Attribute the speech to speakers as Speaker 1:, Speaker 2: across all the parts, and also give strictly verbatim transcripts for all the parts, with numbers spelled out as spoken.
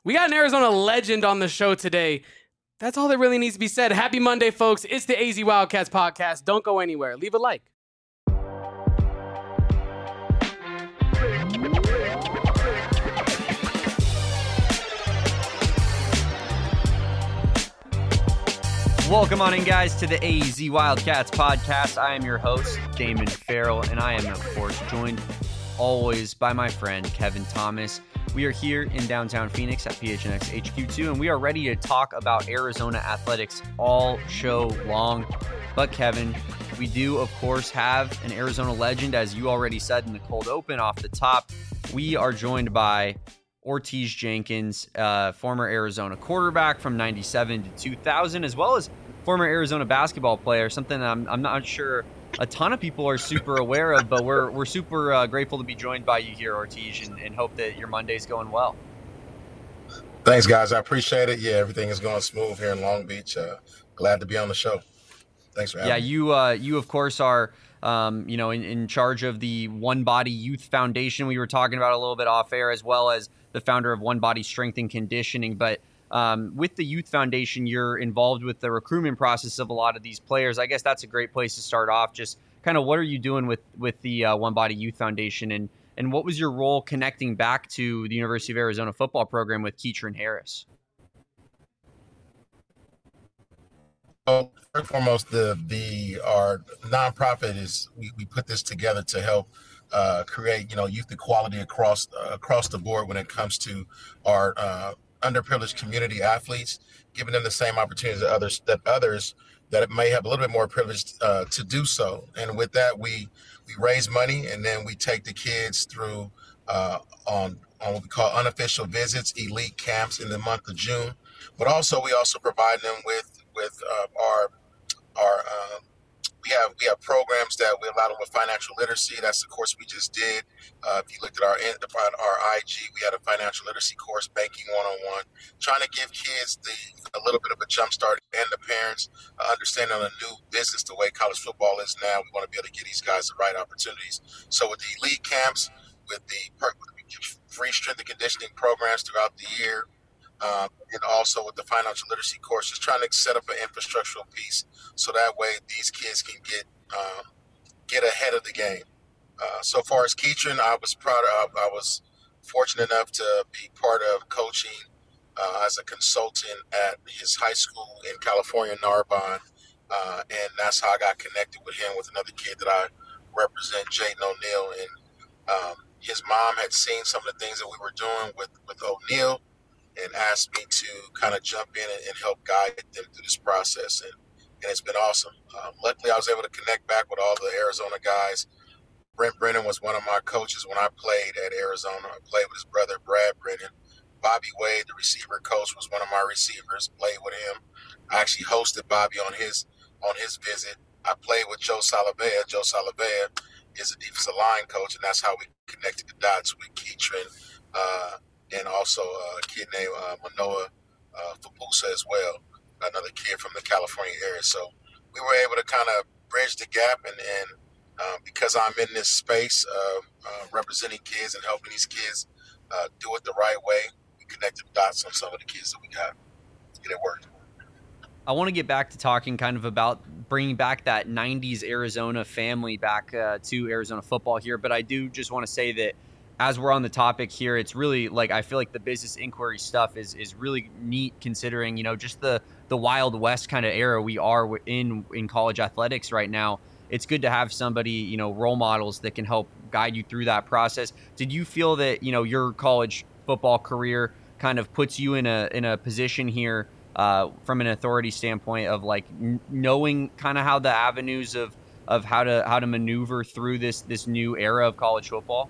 Speaker 1: We got an Arizona legend on the show today. That's all that really needs to be said. Happy Monday, folks. It's the A Z Wildcats podcast. Don't go anywhere. Leave a like.
Speaker 2: Welcome on in, guys, to the A Z Wildcats podcast. I am your host, Damon Farrell, and I am, of course, joined always by my friend, Kevin Thomas. We are here in downtown Phoenix at P H N X H Q two, and we are ready to talk about Arizona athletics all show long. But, Kevin, we do, of course, have an Arizona legend, as you already said in the cold open off the top. We are joined by Ortiz Jenkins, uh, former Arizona quarterback from ninety-seven to two thousand, as well as former Arizona basketball player, something I'm, I'm not sure a ton of people are super aware of, but we're we're super uh, grateful to be joined by you here, Ortiz, and, and hope that your Monday's going well.
Speaker 3: Thanks, guys. I appreciate it. Yeah, everything is going smooth here in Long Beach. Uh, glad to be on the show. Thanks for having
Speaker 2: yeah,
Speaker 3: me. Yeah,
Speaker 2: you, uh, you of course, are um, you know in, in charge of the One Body Youth Foundation. We were talking about a little bit off air, as well as the founder of One Body Strength and Conditioning. But um, with the Youth Foundation, you're involved with the recruitment process of a lot of these players. I guess that's a great place to start off. Just kind of what are you doing with with the uh, One Body Youth Foundation, and and what was your role connecting back to the University of Arizona football program with Keatron Harris?
Speaker 3: Well, first and foremost, the the our nonprofit is we, we put this together to help uh, create you know youth equality across uh, across the board when it comes to our uh, underprivileged community athletes, giving them the same opportunities that others that others that may have a little bit more privileged uh, to do so. And with that, we we raise money, and then we take the kids through uh, on on what we call unofficial visits, elite camps in the month of June. But also, we also provide them with with uh, our our uh, we have we have programs that we allow them with financial literacy. That's the course we just did. Uh, if you looked at our our I G, we had a financial literacy course, banking one on one, trying to give kids the a little bit of a jump start, and the parents uh, understanding on a new business the way college football is now. We want to be able to give these guys the right opportunities. So with the elite camps, with the free strength and conditioning programs throughout the year, Um, and also with the financial literacy courses, trying to set up an infrastructural piece so that way these kids can get um, get ahead of the game. Uh, so far as Keatron, I was proud of, I was fortunate enough to be part of coaching uh, as a consultant at his high school in California, Narbonne, uh, and that's how I got connected with him, with another kid that I represent, Jaden O'Neal. And um, his mom had seen some of the things that we were doing with, with O'Neal, and asked me to kind of jump in and, and help guide them through this process. And, and it's been awesome. Um, luckily, I was able to connect back with all the Arizona guys. Brent Brennan was one of my coaches when I played at Arizona. I played with his brother, Brad Brennan. Bobby Wade, the receiver coach, was one of my receivers, played with him. I actually hosted Bobby on his on his visit. I played with Joe Salavea. Joe Salavea is a defensive line coach, and that's how we connected the dots with Keatron, uh, and also a kid named uh, Manoa uh, Fabusa as well, another kid from the California area. So we were able to kind of bridge the gap, and, and uh, because I'm in this space of uh, representing kids and helping these kids uh, do it the right way, we connected the dots on some of the kids that we got to get it working.
Speaker 2: I want to get back to talking kind of about bringing back that nineties Arizona family back uh, to Arizona football here, but I do just want to say that as we're on the topic here, it's really like I feel like the business inquiry stuff is is really neat, considering, you know, just the the Wild West kind of era we are in in college athletics right now. It's good to have somebody, you know, role models that can help guide you through that process. Did you feel that, you know, your college football career kind of puts you in a in a position here uh, from an authority standpoint of like n- knowing kind of how the avenues of of how to how to maneuver through this this new era of college football?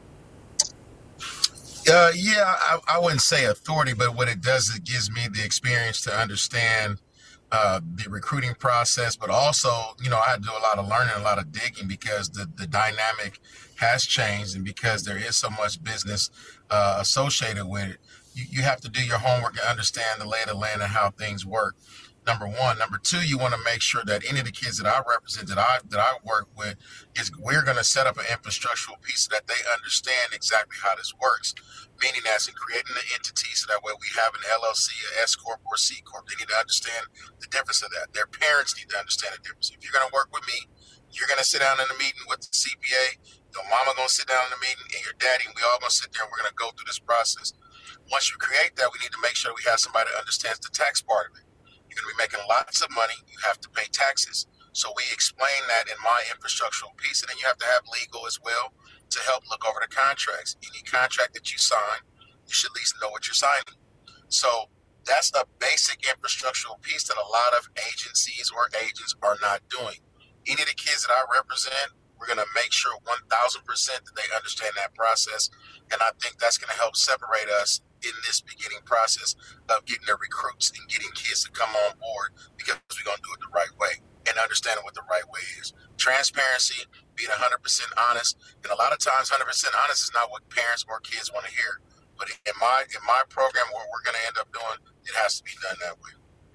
Speaker 3: Uh, yeah, I, I wouldn't say authority, but what it does, it gives me the experience to understand uh, the recruiting process, but also, you know, I had to do a lot of learning, a lot of digging, because the, the dynamic has changed, and because there is so much business uh, associated with it, you, you have to do your homework and understand the lay of the land and how things work. Number one. Number two, you want to make sure that any of the kids that I represent, that I that I work with, is we're going to set up an infrastructural piece so that they understand exactly how this works. Meaning that's in creating the entity so that way we have an L L C, a S Corp, or C Corp. They need to understand the difference of that. Their parents need to understand the difference. If you're going to work with me, you're going to sit down in a meeting with the C P A. Your mama going to sit down in the meeting, and your daddy, and we all going to sit there and we're going to go through this process. Once you create that, we need to make sure we have somebody that understands the tax part of it. You're going to be making lots of money. You have to pay taxes. So we explain that in my infrastructural piece. And then you have to have legal as well to help look over the contracts. Any contract that you sign, you should at least know what you're signing. So that's a basic infrastructural piece that a lot of agencies or agents are not doing. Any of the kids that I represent, we're going to make sure one thousand percent that they understand that process. And I think that's going to help separate us in this beginning process of getting the recruits and getting kids to come on board, because we're going to do it the right way and understanding what the right way is. Transparency, being one hundred percent honest. And a lot of times one hundred percent honest is not what parents or kids want to hear. But in my in my program, what we're going to end up doing, it has to be done that way.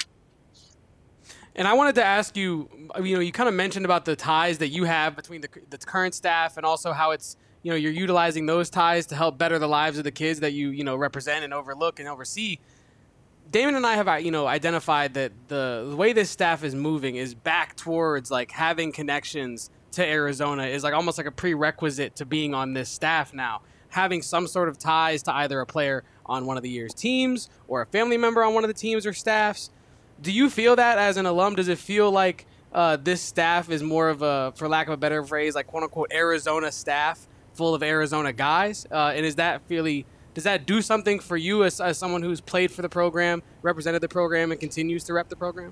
Speaker 1: And I wanted to ask you, you know, you kind of mentioned about the ties that you have between the, the current staff and also how it's, you know, you're utilizing those ties to help better the lives of the kids that you, you know, represent and overlook and oversee. Damon and I have, you know, identified that the, the way this staff is moving is back towards like having connections to Arizona is like almost like a prerequisite to being on this staff now. Having some sort of ties to either a player on one of the year's teams or a family member on one of the teams or staffs. Do you feel that as an alum? Does it feel like uh, this staff is more of a, for lack of a better phrase, like quote unquote Arizona staff full of Arizona guys? Uh, and is that really, does that do something for you as, as someone who's played for the program, represented the program, and continues to rep the program?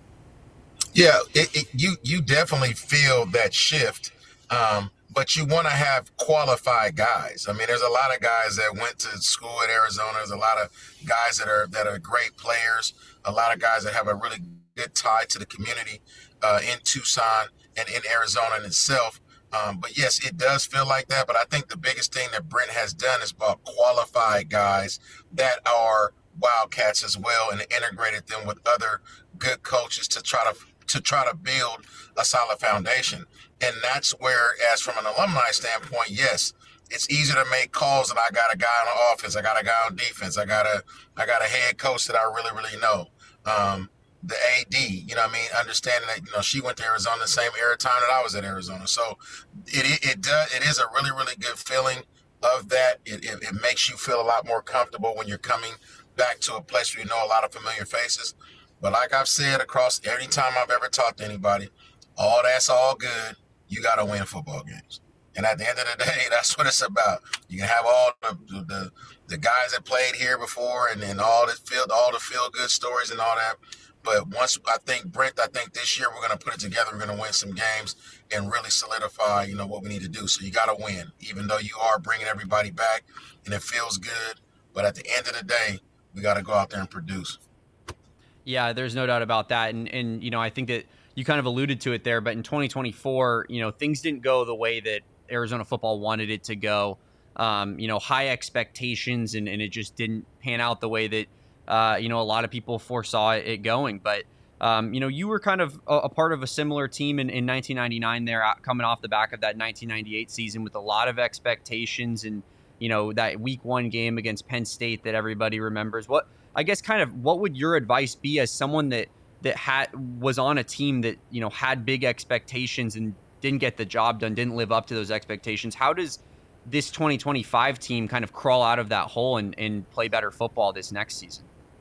Speaker 3: Yeah, it, it, you you definitely feel that shift, um, but you want to have qualified guys. I mean, there's a lot of guys that went to school at Arizona. There's a lot of guys that are that are great players. A lot of guys that have a really good tie to the community uh, in Tucson and in Arizona in itself. Um, but yes, it does feel like that. But I think the biggest thing that Brent has done is brought qualified guys that are Wildcats as well, and integrated them with other good coaches to try to to try to build a solid foundation. And that's where, as from an alumni standpoint, yes, it's easier to make calls and I got a guy on the offense, I got a guy on defense, I got a I got a head coach that I really, really know. Um, the A D, you know what I mean, understanding that, you know, she went to Arizona the same era time that I was at Arizona. So it it, it does it is a really, really good feeling of that. It, it it makes you feel a lot more comfortable when you're coming back to a place where you know a lot of familiar faces. But like I've said across every time I've ever talked to anybody, all that's all good. You got to win football games. And at the end of the day, that's what it's about. You can have all the the, the guys that played here before and then all the feel all the feel good stories and all that. But once I think Brent, I think this year we're going to put it together. We're going to win some games and really solidify, you know, what we need to do. So you got to win, even though you are bringing everybody back and it feels good. But at the end of the day, we got to go out there and produce.
Speaker 2: Yeah, there's no doubt about that. And, and, you know, I think that you kind of alluded to it there, but in twenty twenty-four, you know, things didn't go the way that Arizona football wanted it to go. Um, you know, high expectations, and, and it just didn't pan out the way that, uh, you know, a lot of people foresaw it going. But, um, you know, you were kind of a, a part of a similar team in, in nineteen ninety-nine there, coming off the back of that nineteen ninety-eight season with a lot of expectations and, you know, that week one game against Penn State that everybody remembers. What, I guess, kind of, what would your advice be as someone that, that had was on a team that, you know, had big expectations and didn't get the job done, didn't live up to those expectations? How does this twenty twenty-five team kind of crawl out of that hole and, and play better football this next season?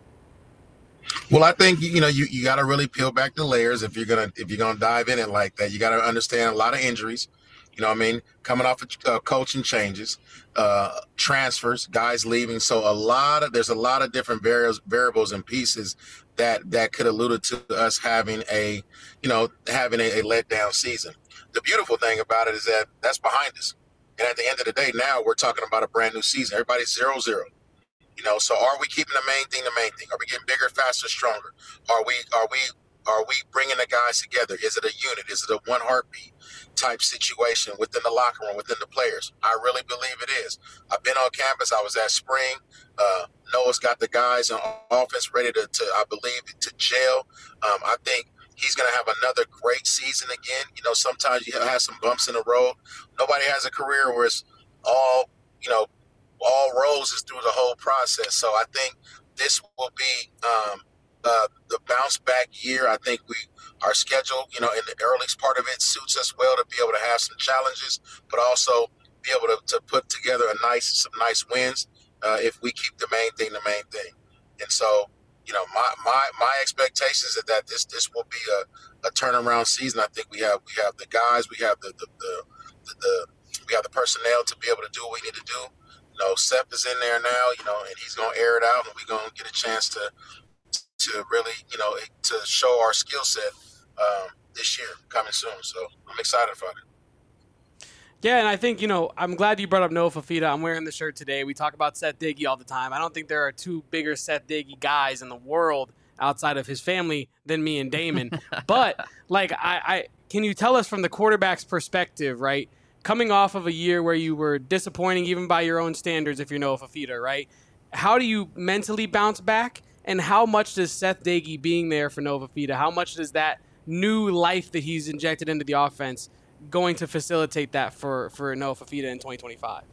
Speaker 3: Well, I think, you know, you, you got to really peel back the layers if you're going to if you're going to dive in it like that. You got to understand a lot of injuries, you know what I mean, coming off of uh, coaching changes, uh, transfers, guys leaving. So a lot of there's a lot of different variables, variables and pieces that that could allude to us having a, you know, having a, a letdown season. The beautiful thing about it is that that's behind us. And at the end of the day, now we're talking about a brand new season. Everybody's zero zero. You know, so are we keeping the main thing the main thing? Are we getting bigger, faster, stronger? Are we are we Are we bringing the guys together? Is it a unit? Is it a one heartbeat type situation within the locker room, within the players? I really believe it is. I've been on campus. I was at spring. Uh, Noah's got the guys on offense ready to, to I believe, to gel. Um, I think he's going to have another great season again. You know, sometimes you have some bumps in the road. Nobody has a career where it's all, you know, all roses through the whole process. So I think this will be um, uh, the bounce back year. I think we our schedule, you know, in the earliest part of it suits us well to be able to have some challenges, but also be able to, to put together a nice some nice wins uh, if we keep the main thing the main thing. And so, you know, my my my expectations is that this this will be a, a turnaround season. I think we have we have the guys, we have the the, the the the we have the personnel to be able to do what we need to do. You know, Sep is in there now, you know, and he's gonna air it out, and we're gonna get a chance to to really, you know, to show our skill set um, this year coming soon. So I'm excited about it.
Speaker 1: Yeah, and I think, you know, I'm glad you brought up Noah Fifita. I'm wearing the shirt today. We talk about Seth Diggy all the time. I don't think there are two bigger Seth Diggy guys in the world outside of his family than me and Damon. But, like, I, I can you tell us from the quarterback's perspective, right, coming off of a year where you were disappointing even by your own standards if you're Noah Fifita, right, how do you mentally bounce back? And how much does Seth Diggy being there for Noah Fifita, how much does that new life that he's injected into the offense going to facilitate that for, for Noah Fifita in twenty twenty-five?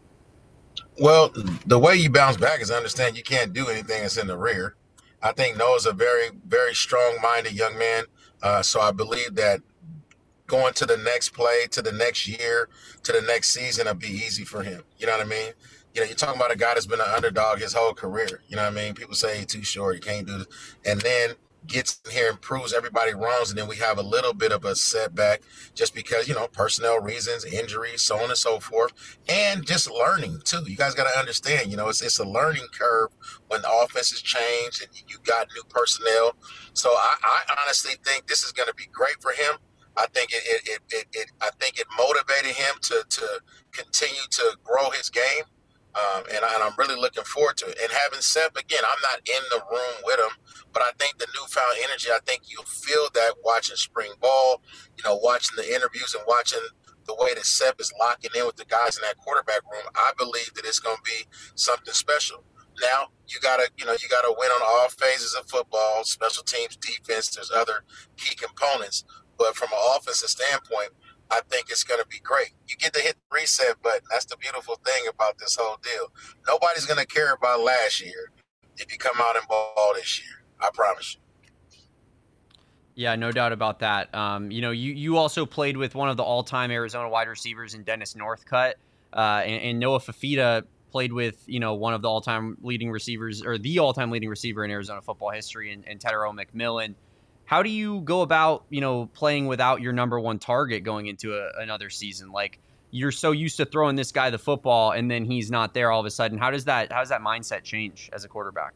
Speaker 3: Well, the way you bounce back is understand you can't do anything that's in the rear. I think Noah's a very, very strong-minded young man. Uh, so I believe that going to the next play, to the next year, to the next season will be easy for him. You know what I mean? You know, you're talking about a guy that's been an underdog his whole career. You know what I mean? People say he's too short, he can't do this. And then gets in here and proves everybody wrong, and then we have a little bit of a setback just because, you know, personnel reasons, injuries, so on and so forth, and just learning too. You guys got to understand, you know, it's it's a learning curve when the offense has changed and you got new personnel. So I, I honestly think this is going to be great for him. I think it, it, it, it, it I think it motivated him to to continue to grow his game. Um, and, I, and I'm really looking forward to it. And having Sep, again, I'm not in the room with him, but I think the newfound energy, I think you'll feel that watching spring ball, you know, watching the interviews and watching the way that Sep is locking in with the guys in that quarterback room. I believe that it's going to be something special. Now, you got to, you know, you got to win on all phases of football, special teams, defense, there's other key components. But from an offensive standpoint, I think it's going to be great. You get to hit the reset button. That's the beautiful thing about this whole deal. Nobody's going to care about last year if you come out and ball this year. I promise you.
Speaker 2: Yeah, no doubt about that. Um, you know, you, you also played with one of the all-time Arizona wide receivers in Dennis Northcutt, uh, and, and Noah Fifita played with, you know, one of the all-time leading receivers, or the all-time leading receiver in Arizona football history, and, and Tetairoa McMillan. How do you go about, you know, playing without your number one target going into a, another season? Like, you're so used to throwing this guy the football, and then he's not there all of a sudden. How does that how does that mindset change as a quarterback?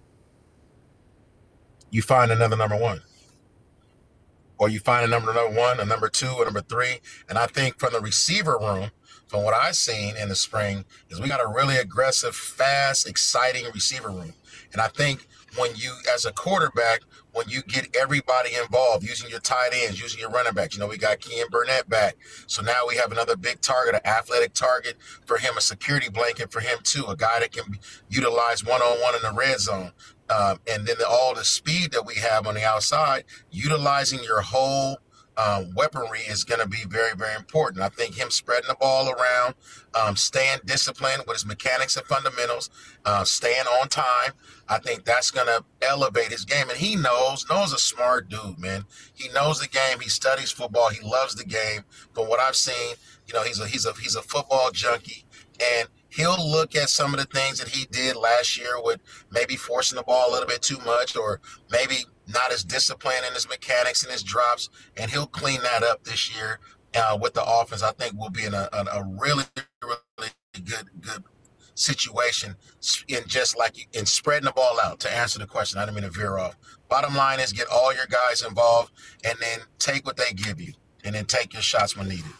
Speaker 3: You find another number one. Or you find a number number one, a number two, a number three. And I think from the receiver room, from what I've seen in the spring, is we got a really aggressive, fast, exciting receiver room. And I think when you, as a quarterback, when you get everybody involved, using your tight ends, using your running backs, you know, we got Kean Burnett back. So now we have another big target, an athletic target for him, a security blanket for him too, a guy that can be utilized one-on-one in the red zone. Um, and then the, all the speed that we have on the outside, utilizing your whole um, weaponry is going to be very, very important. I think him spreading the ball around, um, staying disciplined with his mechanics and fundamentals, uh, staying on time, I think that's going to elevate his game. And he knows, knows a smart dude, man. He knows the game. He studies football. He loves the game. From what I've seen, you know, he's a he's a he's a football junkie, and he'll look at some of the things that he did last year with maybe forcing the ball a little bit too much, or maybe not as disciplined in his mechanics and his drops, and he'll clean that up this year uh, with the offense. I think we'll be in a, a, a really, really good, good situation in just like in spreading the ball out. To answer the question, I didn't mean to veer off. Bottom line is get all your guys involved, and then take what they give you, and then take your shots when needed.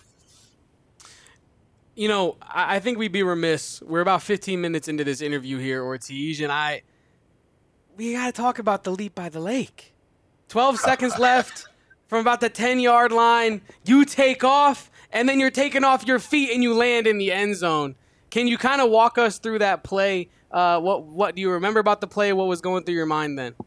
Speaker 1: You know, I think we'd be remiss. We're about fifteen minutes into this interview here, Ortiz, and I, we got to talk about the leap by the lake. twelve seconds left from about the ten-yard line. You take off, and then you're taking off your feet, and you land in the end zone. Can you kind of walk us through that play? Uh, what what do you remember about the play? What was going through your mind then?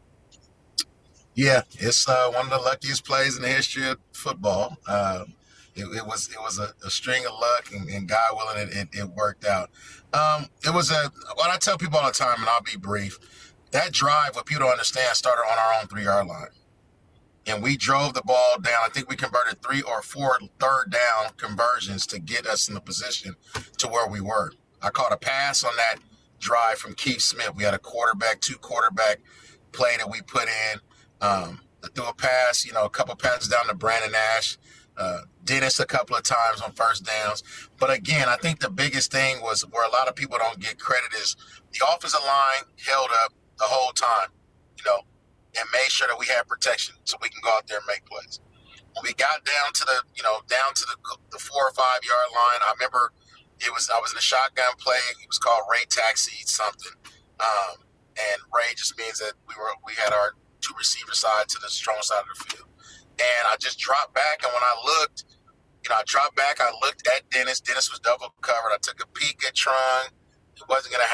Speaker 3: Yeah, it's uh, one of the luckiest plays in the history of football. Uh, it, it was it was a, a string of luck, and, and God willing, it, it, it worked out. Um, it was a what I tell people all the time, and I'll be brief. That drive, what people don't understand, started on our own three-yard line. And we drove the ball down. I think we converted three or four third down conversions to get us in the position to where we were. I caught a pass on that drive from Keith Smith. We had a quarterback, two quarterback play that we put in. Um, I threw a pass, you know, a couple passes down to Brandon Nash, uh, Dennis a couple of times on first downs. But again, I think the biggest thing was where a lot of people don't get credit is the offensive line held up the whole time, you know, and made sure that we had protection so we can go out there and make plays. When we got down to the, you know, down to the, the four or five yard line, I remember it was I was in a shotgun play. It was called Ray Taxi something, um, and Ray just means that we were we had our two receiver side to the strong side of the field. And I just dropped back, and when I looked, you know, I dropped back, I looked at Dennis. Dennis was double covered. I took a peek at Trung. It wasn't going to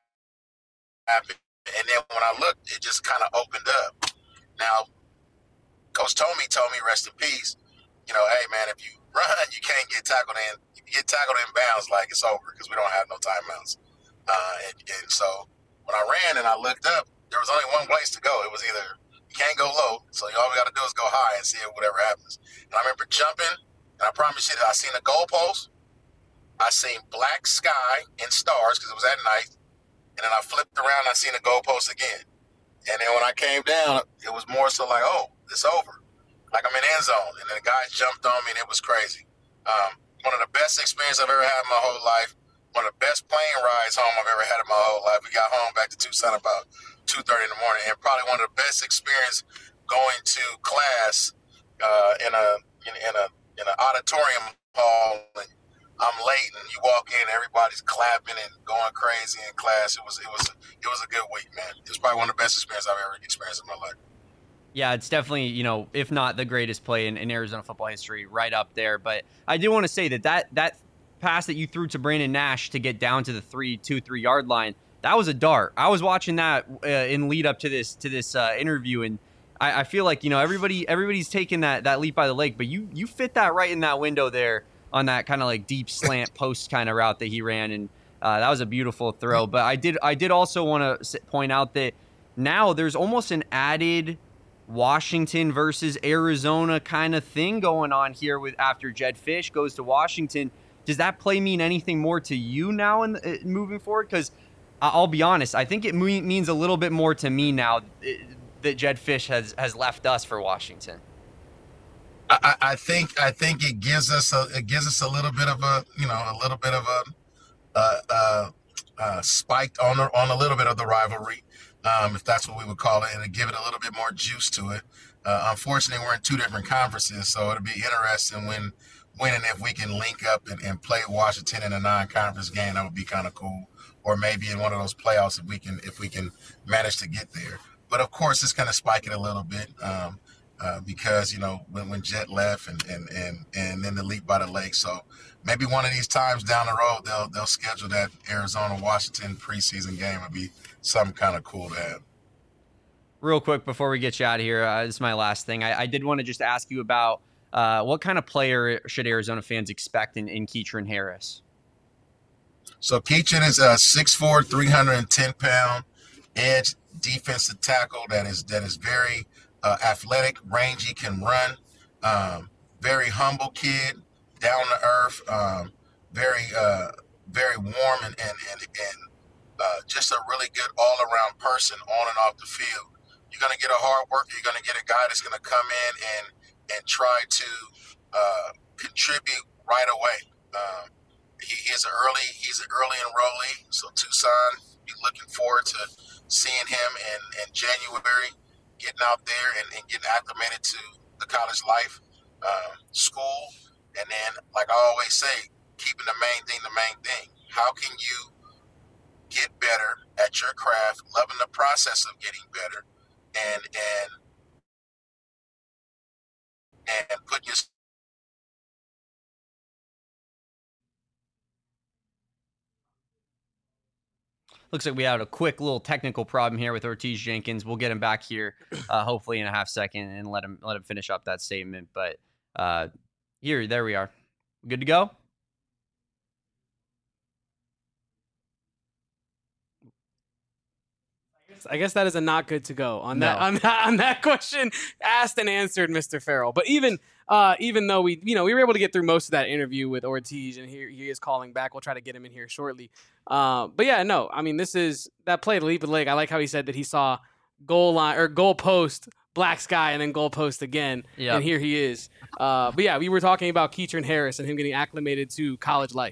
Speaker 3: happen. And then when I looked, it just kind of opened up. Now, Coach Tomey told me, rest in peace, you know, hey, man, if you run, you can't get tackled in. If you get tackled in bounds, like, it's over because we don't have no timeouts. Uh, and, and so when I ran and I looked up, there was only one place to go. It was either you can't go low, so all we got to do is go high and see whatever happens. And I remember jumping, and I promise you that I seen the goalpost, I seen black sky and stars because it was at night, and then I flipped around and I seen the goalpost again. And then when I came down, it was more so like, oh, it's over. Like I'm in the end zone, and then the guys jumped on me, and it was crazy. Um, one of the best experiences I've ever had in my whole life. One of the best plane rides home I've ever had in my whole life. We got home back to Tucson about two thirty in the morning, and probably one of the best experience going to class uh, in a in, in a in an auditorium hall. And I'm late, and you walk in, everybody's clapping and going crazy in class. It was it was it was a good week, man. It was probably one of the best experiences I've ever experienced in my life.
Speaker 2: Yeah, it's definitely, you know, if not the greatest play in, in Arizona football history, right up there. But I do want to say that that that pass that you threw to Brandon Nash to get down to the three, two, three yard line, that was a dart. I was watching that uh, in lead up to this to this uh, interview, and I, I feel like, you know, everybody everybody's taking that that leap by the leg, but you you fit that right in that window there on that kind of like deep slant post kind of route that he ran, and uh, that was a beautiful throw. But I did I did also want to point out that now there's almost an added Washington versus Arizona kind of thing going on here with after Jedd Fisch goes to Washington. Does that play mean anything more to you now in uh, moving forward? Because I'll be honest, I think it means a little bit more to me now that Jedd Fisch has has left us for Washington.
Speaker 3: I, I think I think it gives us a it gives us a little bit of a you know a little bit of a uh, uh, uh, spiked on the, on a little bit of the rivalry, um, if that's what we would call it, and to give it a little bit more juice to it. Uh, unfortunately, we're in two different conferences, so it'll be interesting when. When and if we can link up and, and play Washington in a non-conference game, that would be kind of cool. Or maybe in one of those playoffs if we can if we can manage to get there. But of course, it's going to spike it a little bit um, uh, because you know when, when Jet left and, and and and then the leap by the lake. So maybe one of these times down the road they'll they'll schedule that Arizona Washington preseason game. Would be something kind of cool to have.
Speaker 2: Real quick before we get you out of here, uh, this is my last thing. I, I did want to just ask you about. Uh, what kind of player should Arizona fans expect in, in Keatron Harris?
Speaker 3: So Keatron is a six foot four, three hundred ten pound edge defensive tackle that is that is very uh, athletic, rangy, can run. Um, very humble kid, down to earth, um, very uh, very warm and and and, and uh, just a really good all around person on and off the field. You're gonna get a hard worker. You're gonna get a guy that's gonna come in and and try to uh, contribute right away. Um, he is an early, he's an early enrollee, so Tucson, be looking forward to seeing him in, in January, getting out there and, and getting acclimated to the college life, uh, school, and then, like I always say, keeping the main thing the main thing. How can you get better at your craft, loving the process of getting better, and and and put your
Speaker 2: Looks like we had a quick little technical problem here with Ortiz Jenkins. We'll get him back here, uh, hopefully in a half second, and let him let him finish up that statement. But uh, here, there we are. Good to go?
Speaker 1: I guess that is a not good to go on that
Speaker 2: No.
Speaker 1: on that on that question asked and answered, Mister Farrell. But even uh, even though we you know we were able to get through most of that interview with Ortiz, and here he is calling back. We'll try to get him in here shortly. Uh, but yeah, no, I mean this is that play to leap of the leg. I like how he said that he saw goal line or goal post, black sky, and then goal post again,
Speaker 2: Yep.
Speaker 1: and here he is. Uh, but yeah, we were talking about Keatron Harris and him getting acclimated to college life.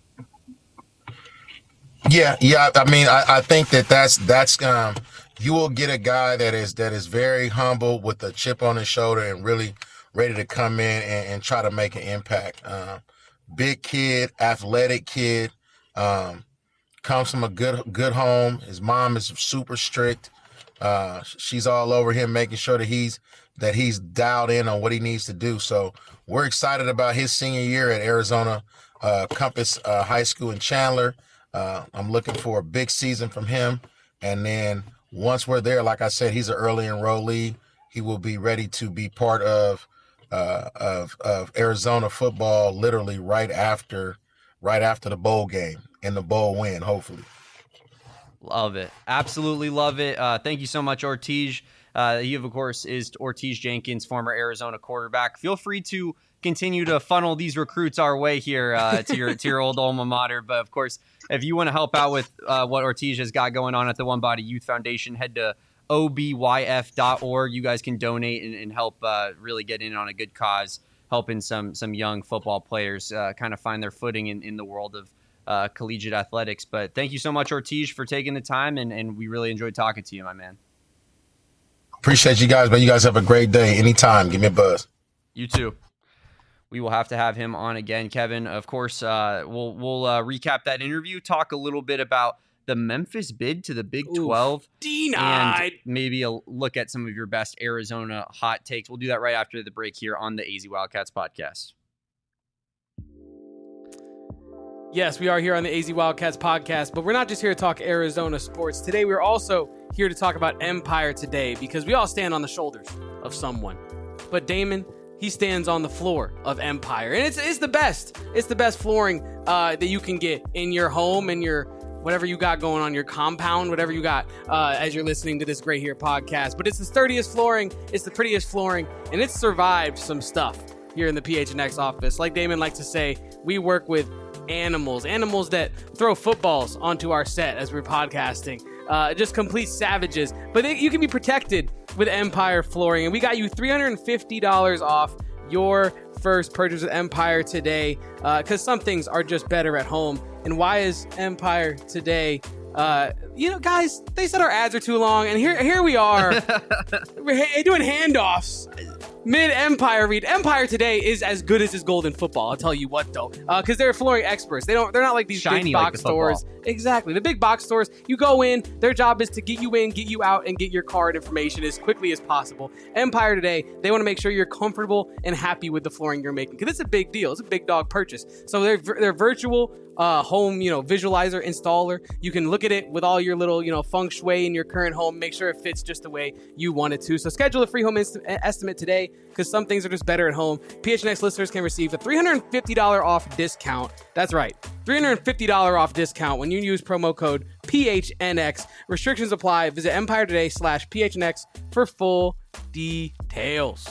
Speaker 3: Yeah, yeah. I mean, I, I think that that's that's um, you will get a guy that is that is very humble with a chip on his shoulder and really ready to come in and, and try to make an impact. Um, big kid, athletic kid, um, comes from a good good home. His mom is super strict. Uh, she's all over him, making sure that he's that he's dialed in on what he needs to do. So we're excited about his senior year at Arizona uh, Compass uh, High School in Chandler. Uh, I'm looking for a big season from him. And then once we're there, like I said, he's an early enrollee. He will be ready to be part of uh, of of Arizona football literally right after right after the bowl game and the bowl win, hopefully.
Speaker 2: Love it. Absolutely love it. Uh, thank you so much, Ortiz. Uh, he, of course, is Ortiz Jenkins, former Arizona quarterback. Feel free to continue to funnel these recruits our way here uh, to your to your old alma mater. But, of course, if you want to help out with uh, what Ortiz has got going on at the One Body Youth Foundation, head to O B Y F dot org. You guys can donate and, and help uh, really get in on a good cause, helping some some young football players uh, kind of find their footing in, in the world of uh, collegiate athletics. But thank you so much, Ortiz, for taking the time, and, and we really enjoyed talking to you, my man.
Speaker 3: Appreciate you guys, man. You guys have a great day. Anytime. Give me a buzz.
Speaker 2: You too. We will have to have him on again, Kevin. Of course, uh, we'll we'll uh, recap that interview, talk a little bit about the Memphis bid to the Big twelve,
Speaker 1: Denied.
Speaker 2: and maybe a look at some of your best Arizona hot takes. We'll do that right after the break here on the A Z Wildcats podcast.
Speaker 1: Yes, we are here on the A Z Wildcats podcast, but we're not just here to talk Arizona sports. Today, we're also here to talk about Empire Today, because we all stand on the shoulders of someone. But Damon, he stands on the floor of Empire, and it's it's the best. It's the best flooring uh, that you can get in your home and your whatever you got going on, your compound, whatever you got uh, as you're listening to this great here podcast. But it's the sturdiest flooring, it's the prettiest flooring, and it's survived some stuff here in the P H N X office. Like Damon likes to say, we work with animals, animals that throw footballs onto our set as we're podcasting. Uh, just complete savages. But they, you can be protected with Empire Flooring. And we got you three hundred fifty dollars off your first purchase with Empire Today, because uh, some things are just better at home. And why is Empire Today? Uh, you know, guys, they said our ads are too long, and here here we are. We're ha- doing handoffs. Mid-Empire read. Empire Today is as good as his Golden Football. I'll tell you what, though, because uh, they're flooring experts. They don't. They're not like these
Speaker 2: Shiny
Speaker 1: big
Speaker 2: like
Speaker 1: box
Speaker 2: the football.
Speaker 1: stores. Exactly, the big box stores. You go in. Their job is to get you in, get you out, and get your card information as quickly as possible. Empire Today, they want to make sure you're comfortable and happy with the flooring you're making, because it's a big deal. It's a big dog purchase. So they're they're virtual. Uh, home, you know, visualizer installer. You can look at it with all your little, you know, feng shui in your current home. Make sure it fits just the way you want it to. So schedule a free home inst- estimate today, because some things are just better at home. P H N X listeners can receive a three hundred fifty dollars off discount. That's right, three hundred fifty dollars off discount when you use promo code P H N X. Restrictions apply. Visit Empire Today slash P H N X for full details.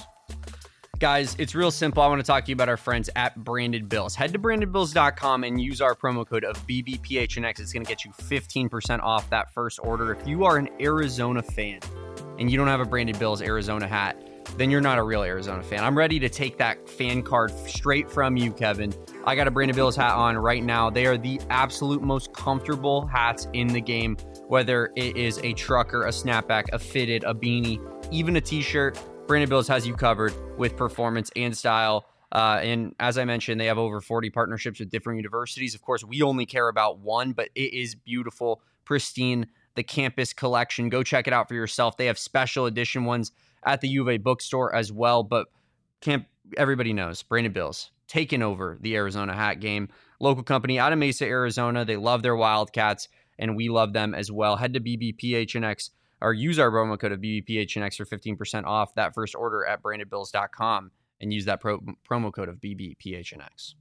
Speaker 2: Guys, it's real simple. I want to talk to you about our friends at Branded Bills. Head to branded bills dot com and use our promo code of B B P H N X. It's going to get you fifteen percent off that first order. If you are an Arizona fan and you don't have a Branded Bills Arizona hat, then you're not a real Arizona fan. I'm ready to take that fan card straight from you, Kevin. I got a Branded Bills hat on right now. They are the absolute most comfortable hats in the game, whether it is a trucker, a snapback, a fitted, a beanie, even a t-shirt. Branded Bills has you covered with performance and style. Uh, and as I mentioned, they have over forty partnerships with different universities. Of course, we only care about one, but it is beautiful, pristine, the campus collection. Go check it out for yourself. They have special edition ones at the U of A bookstore as well. But can't everybody knows Brandon Bills taking over the Arizona hat game. Local company out of Mesa, Arizona. They love their Wildcats, and we love them as well. Head to B B P H N X or use our promo code of B B P H N X for fifteen percent off that first order at branded bills dot com and use that pro- promo code of B B P H N X.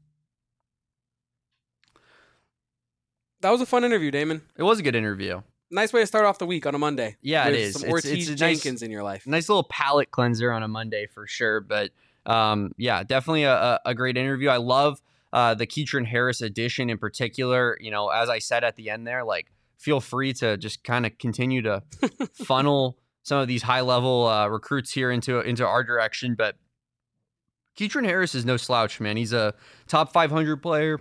Speaker 1: That was a fun interview, Damon.
Speaker 2: It was a good interview.
Speaker 1: Nice way to start off the week on a Monday.
Speaker 2: Yeah,
Speaker 1: it
Speaker 2: is.
Speaker 1: Some
Speaker 2: It's,
Speaker 1: Ortiz
Speaker 2: it's
Speaker 1: Jenkins
Speaker 2: nice,
Speaker 1: in your life.
Speaker 2: Nice little palate cleanser on a Monday for sure. But um, yeah, definitely a, a great interview. I love uh, the Keatron Harris edition in particular. You know, as I said at the end there, like, feel free to just kind of continue to funnel some of these high level uh, recruits here into into our direction. But Keatron Harris is no slouch, man. He's a top five hundred player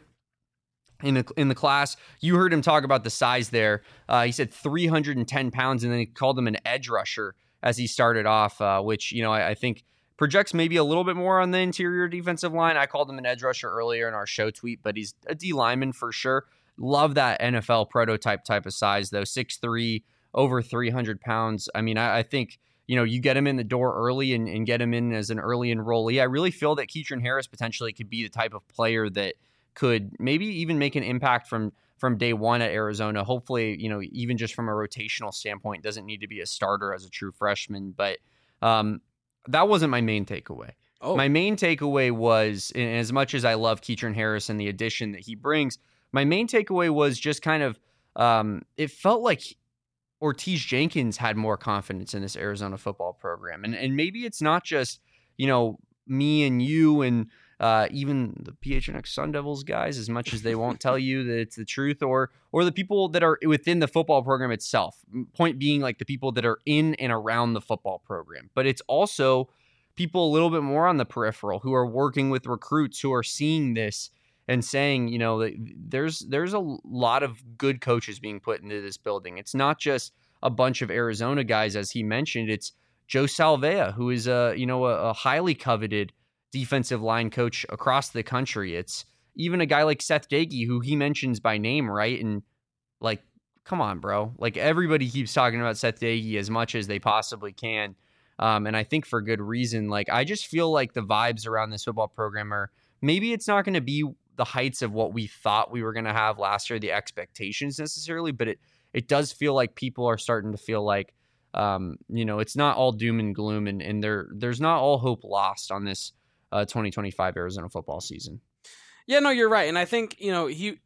Speaker 2: in the, in the class. You heard him talk about the size there. Uh, he said three hundred ten pounds, and then he called him an edge rusher as he started off, uh, which, you know, I, I think projects maybe a little bit more on the interior defensive line. I called him an edge rusher earlier in our show tweet, but he's a D lineman for sure. Love that N F L prototype type of size, though. six three, over three hundred pounds. I mean, I, I think, you know, you get him in the door early and, and get him in as an early enrollee. I really feel that Keatron Harris potentially could be the type of player that could maybe even make an impact from from day one at Arizona. Hopefully, you know, even just from a rotational standpoint, doesn't need to be a starter as a true freshman. But um, that wasn't my main takeaway. Oh. My main takeaway was, and as much as I love Keatron Harris and the addition that he brings, my main takeaway was just kind of, um, it felt like Ortiz Jenkins had more confidence in this Arizona football program. And and maybe it's not just, you know, me and you and uh, even the P H N X Sun Devils guys, as much as they won't tell you that it's the truth, or or the people that are within the football program itself. Point being, like, the people that are in and around the football program. But it's also people a little bit more on the peripheral who are working with recruits, who are seeing this and saying, you know, that there's there's a lot of good coaches being put into this building. It's not just a bunch of Arizona guys, as he mentioned. It's Joe Salvea, who is a you know a, a highly coveted defensive line coach across the country. It's even a guy like Seth Dagey, who he mentions by name, right? And, like, come on, bro. Like, everybody keeps talking about Seth Dagey as much as they possibly can. Um, and I think for good reason. Like, I just feel like the vibes around this football program are, maybe it's not going to be the heights of what we thought we were going to have last year, the expectations necessarily, but it, it does feel like people are starting to feel like, um, you know, it's not all doom and gloom, and, and there, there's not all hope lost on this uh, twenty twenty-five Arizona football season.
Speaker 1: Yeah, no, you're right. And I think, you know, he,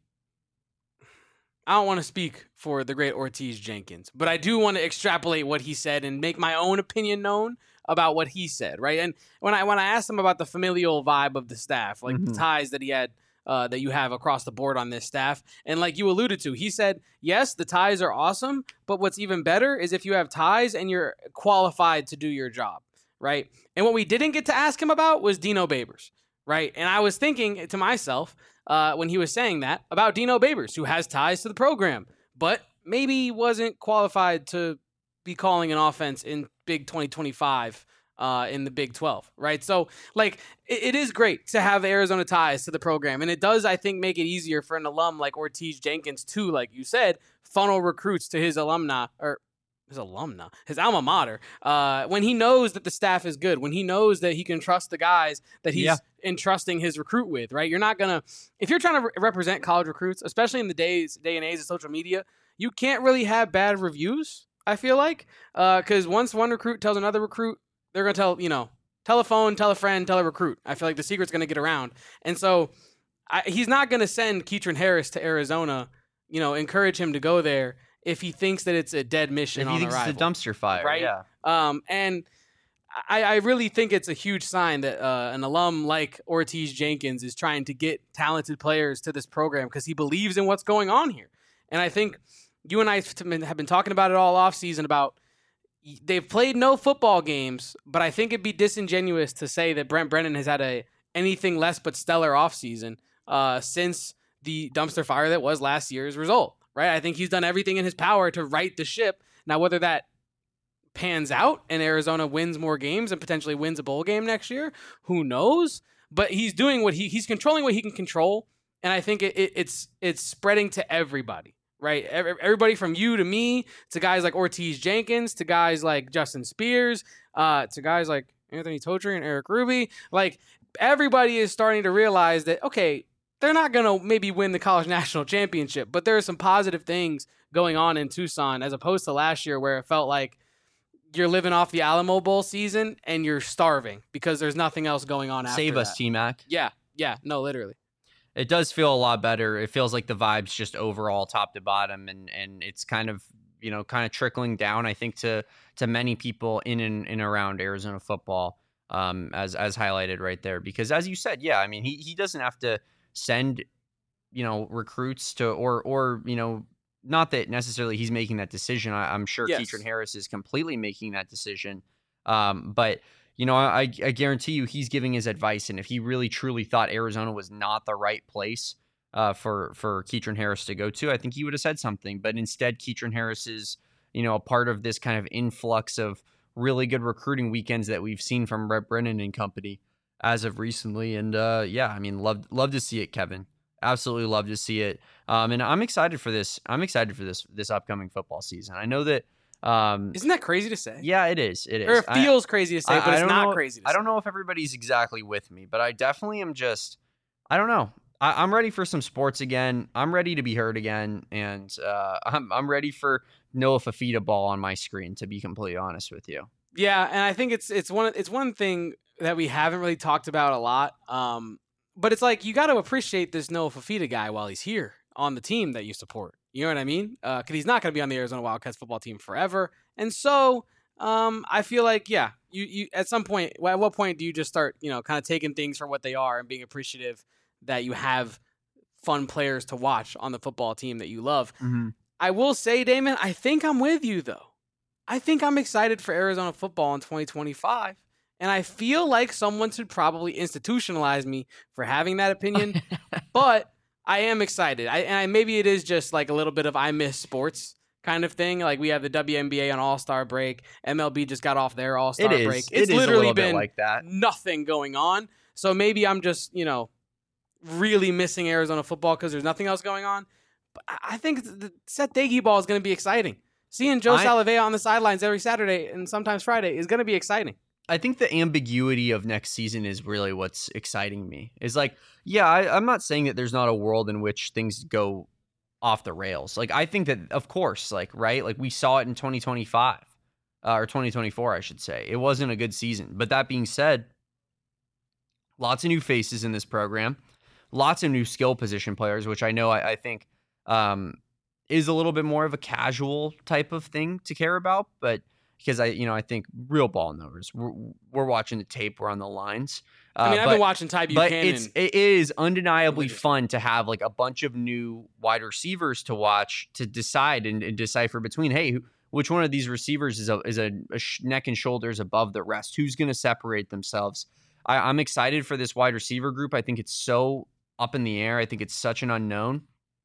Speaker 1: I don't want to speak for the great Ortiz Jenkins, but I do want to extrapolate what he said and make my own opinion known about what he said, right? And when I when I asked him about the familial vibe of the staff, like mm-hmm. the ties that he had, uh, that you have across the board on this staff, and like you alluded to, he said, yes, the ties are awesome, but what's even better is if you have ties and you're qualified to do your job, right? And what we didn't get to ask him about was Dino Babers, right? And I was thinking to myself, uh, when he was saying that, about Dino Babers, who has ties to the program, but maybe wasn't qualified to be calling an offense in Big twenty twenty-five uh, in the Big twelve, right? So, like, it, it is great to have Arizona ties to the program, and it does, I think, make it easier for an alum like Ortiz Jenkins to, like you said, funnel recruits to his alumni, or his alumna, his alma mater, uh, when he knows that the staff is good, when he knows that he can trust the guys that he's yeah. entrusting his recruit with, right? You're not going to, if you're trying to re- represent college recruits, especially in the days, day and age of social media, you can't really have bad reviews, I feel like, because uh, once one recruit tells another recruit, they're going to tell, you know, tell a phone, tell a friend, tell a recruit. I feel like the secret's going to get around. And so I, he's not going to send Keatron Harris to Arizona, you know, encourage him to go there if he thinks that it's a dead mission
Speaker 2: if
Speaker 1: on
Speaker 2: he thinks
Speaker 1: arrival,
Speaker 2: it's a dumpster fire,
Speaker 1: right?
Speaker 2: Yeah.
Speaker 1: Um, and I, I really think it's a huge sign that uh, an alum like Ortiz Jenkins is trying to get talented players to this program because he believes in what's going on here. And I think you and I have been talking about it all offseason about they've played no football games, but I think it'd be disingenuous to say that Brent Brennan has had a anything less but stellar offseason uh, since the dumpster fire that was last year's result. Right, I think he's done everything in his power to right the ship. Now, whether that pans out and Arizona wins more games and potentially wins a bowl game next year, who knows? But he's doing what he he's controlling what he can control, and I think it, it, it's it's spreading to everybody. Right, everybody from you to me to guys like Ortiz Jenkins to guys like Justin Spears uh, to guys like Anthony Totri and Eric Ruby. Like, everybody is starting to realize that, okay, they're not going to maybe win the college national championship, but there are some positive things going on in Tucson as opposed to last year where it felt like you're living off the Alamo Bowl season and you're starving because there's nothing else going on after
Speaker 2: Save us,
Speaker 1: that.
Speaker 2: T-Mac.
Speaker 1: Yeah, yeah, no, literally.
Speaker 2: It does feel a lot better. It feels like the vibe's just overall top to bottom, and and it's kind of, you know, kind of trickling down, I think, to to many people in and, and around Arizona football, um, as as highlighted right there. Because as you said, yeah, I mean, he he doesn't have to send, you know, recruits to, or or you know, not that necessarily he's making that decision. I, I'm sure
Speaker 1: Yes.
Speaker 2: Keatron Harris is completely making that decision, um, but. You know, I, I guarantee you he's giving his advice, and if he really truly thought Arizona was not the right place uh, for for Keatron Harris to go to, I think he would have said something. But instead, Keatron Harris is, you know, a part of this kind of influx of really good recruiting weekends that we've seen from Brett Brennan and company as of recently. And uh, yeah, I mean, love love to see it, Kevin. Absolutely love to see it. Um, and I'm excited for this. I'm excited for this this upcoming football season. I know that. Um,
Speaker 1: Isn't that crazy to say?
Speaker 2: Yeah, it is. It is.
Speaker 1: Or it
Speaker 2: I-
Speaker 1: feels crazy to say,
Speaker 2: I-
Speaker 1: but
Speaker 2: I
Speaker 1: it's
Speaker 2: don't
Speaker 1: not
Speaker 2: know-
Speaker 1: crazy to
Speaker 2: I
Speaker 1: say.
Speaker 2: don't know if everybody's exactly with me, but I definitely am just, I don't know. I, I'm ready for some sports again. I'm ready to be heard again. And uh, I'm, I'm ready for Noah Fafita ball on my screen, to be completely honest with you.
Speaker 1: Yeah, and I think it's it's one it's one thing that we haven't really talked about a lot. Um, but it's like you got to appreciate this Noah Fafita guy while he's here on the team that you support. You know what I mean? Because he's not going to be on the Arizona Wildcats football team forever. And so um, I feel like, yeah, you, you at some point, at what point do you just start, you know, kind of taking things for what they are and being appreciative that you have fun players to watch on the football team that you love?
Speaker 2: Mm-hmm.
Speaker 1: I will say, Damon, I think I'm with you, though. I think I'm excited for Arizona football in twenty twenty-five. And I feel like someone should probably institutionalize me for having that opinion. But I am excited. I, and I, maybe it is just like a little bit of I miss sports kind of thing. Like we have the W N B A on All-Star break. M L B just got off their All-Star
Speaker 2: It is.
Speaker 1: break.
Speaker 2: It
Speaker 1: It's
Speaker 2: is a
Speaker 1: literally
Speaker 2: little bit
Speaker 1: been
Speaker 2: like that.
Speaker 1: nothing going on. So maybe I'm just, you know, really missing Arizona football because there's nothing else going on. But I I think the Seth Dagey ball is going to be exciting. Seeing Joe
Speaker 2: I-
Speaker 1: Salavea on the sidelines every Saturday and sometimes Friday is going to be exciting.
Speaker 2: I think the ambiguity of next season is really what's exciting me. Is like, yeah, I, I'm not saying that there's not a world in which things go off the rails. Like, I think that, of course, like, right? Like, we saw it in twenty twenty-five, uh, or twenty twenty-four, I should say. It wasn't a good season. But that being said, lots of new faces in this program, lots of new skill position players, which I know I, I think um, is a little bit more of a casual type of thing to care about, but because I, you know, I think real ball knowers, we're, we're watching the tape, we're on the lines. Uh,
Speaker 1: I mean, I've
Speaker 2: but,
Speaker 1: been watching Ty
Speaker 2: but
Speaker 1: Buchanan.
Speaker 2: it's it is undeniably
Speaker 1: Religious.
Speaker 2: fun to have like a bunch of new wide receivers to watch to decide and, and decipher between, hey, who, which one of these receivers is a is a, a sh- neck and shoulders above the rest? Who's going to separate themselves? I, I'm excited for this wide receiver group. I think it's so up in the air. I think it's such an unknown.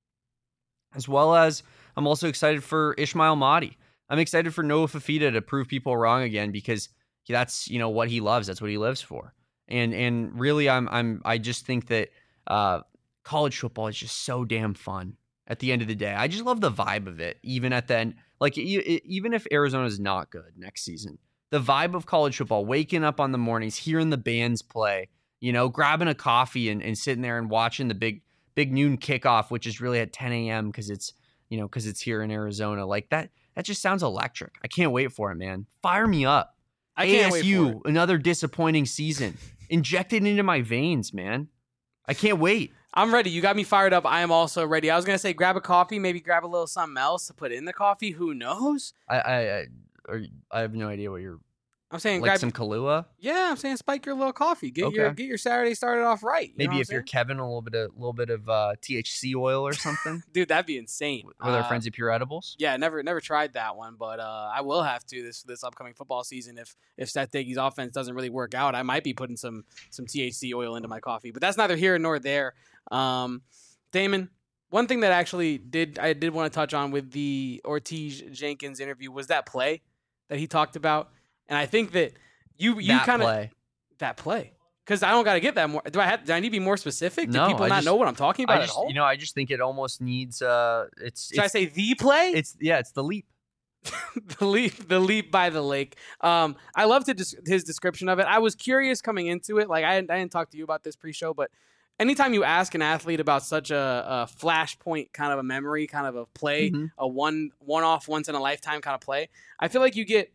Speaker 2: As well as I'm also excited for Ishmael Mahdi. I'm excited for Noah Fafita to prove people wrong again because that's, you know, what he loves. That's what he lives for. And and really, I'm I'm I just think that uh, college football is just so damn fun. At the end of the day, I just love the vibe of it. Even at then, like e- even if Arizona is not good next season, the vibe of college football, waking up on the mornings, hearing the bands play, you know, grabbing a coffee and, and sitting there and watching the big big noon kickoff, which is really at ten a.m. because it's you know because it's here in Arizona, like that. That just sounds electric. I can't wait for it, man. Fire me up.
Speaker 1: I can't wait
Speaker 2: A S U,
Speaker 1: for it.
Speaker 2: another disappointing season. Inject it into my veins, man. I can't wait.
Speaker 1: I'm ready. You got me fired up. I am also ready. I was going to say grab a coffee, maybe grab a little something else to put in the coffee. Who knows?
Speaker 2: I I I, are, I have no idea what you're
Speaker 1: I'm saying
Speaker 2: like
Speaker 1: grab
Speaker 2: some Kahlua.
Speaker 1: Yeah, I'm saying spike your little coffee. Get your
Speaker 2: Okay.
Speaker 1: get your Saturday started off right. You know
Speaker 2: Maybe
Speaker 1: what
Speaker 2: if
Speaker 1: I'm
Speaker 2: you're
Speaker 1: saying?
Speaker 2: Kevin, a little bit of little bit of uh, T H C oil or something
Speaker 1: Dude, that'd be insane.
Speaker 2: with our
Speaker 1: Uh,
Speaker 2: friends at Pure Edibles.
Speaker 1: Yeah, never never tried that one, but uh, I will have to this this upcoming football season. If if Seth Dagey's offense doesn't really work out, I might be putting some some T H C oil into my coffee. But that's neither here nor there. Um, Damon, one thing that actually did I did want to touch on with the Ortiz Jenkins interview was that play that he talked about, and I think that you you
Speaker 2: that
Speaker 1: kind of
Speaker 2: play.
Speaker 1: that play because I don't got to get that more. Do I have? Do I need to be more specific? Do
Speaker 2: No,
Speaker 1: people
Speaker 2: I
Speaker 1: not
Speaker 2: just-
Speaker 1: know what I'm talking about
Speaker 2: I
Speaker 1: at
Speaker 2: just
Speaker 1: all?
Speaker 2: you know I just think it almost needs uh it's
Speaker 1: Should I
Speaker 2: it's,
Speaker 1: say the play?
Speaker 2: it's yeah it's the leap.
Speaker 1: the leap, the leap by the lake. Um, I loved his, his description of it. I was curious coming into it. Like I, I didn't talk to you about this pre-show, but anytime you ask an athlete about such a, a flashpoint kind of a memory, kind of a play, mm-hmm. a one one off, once in a lifetime kind of play, I feel like you get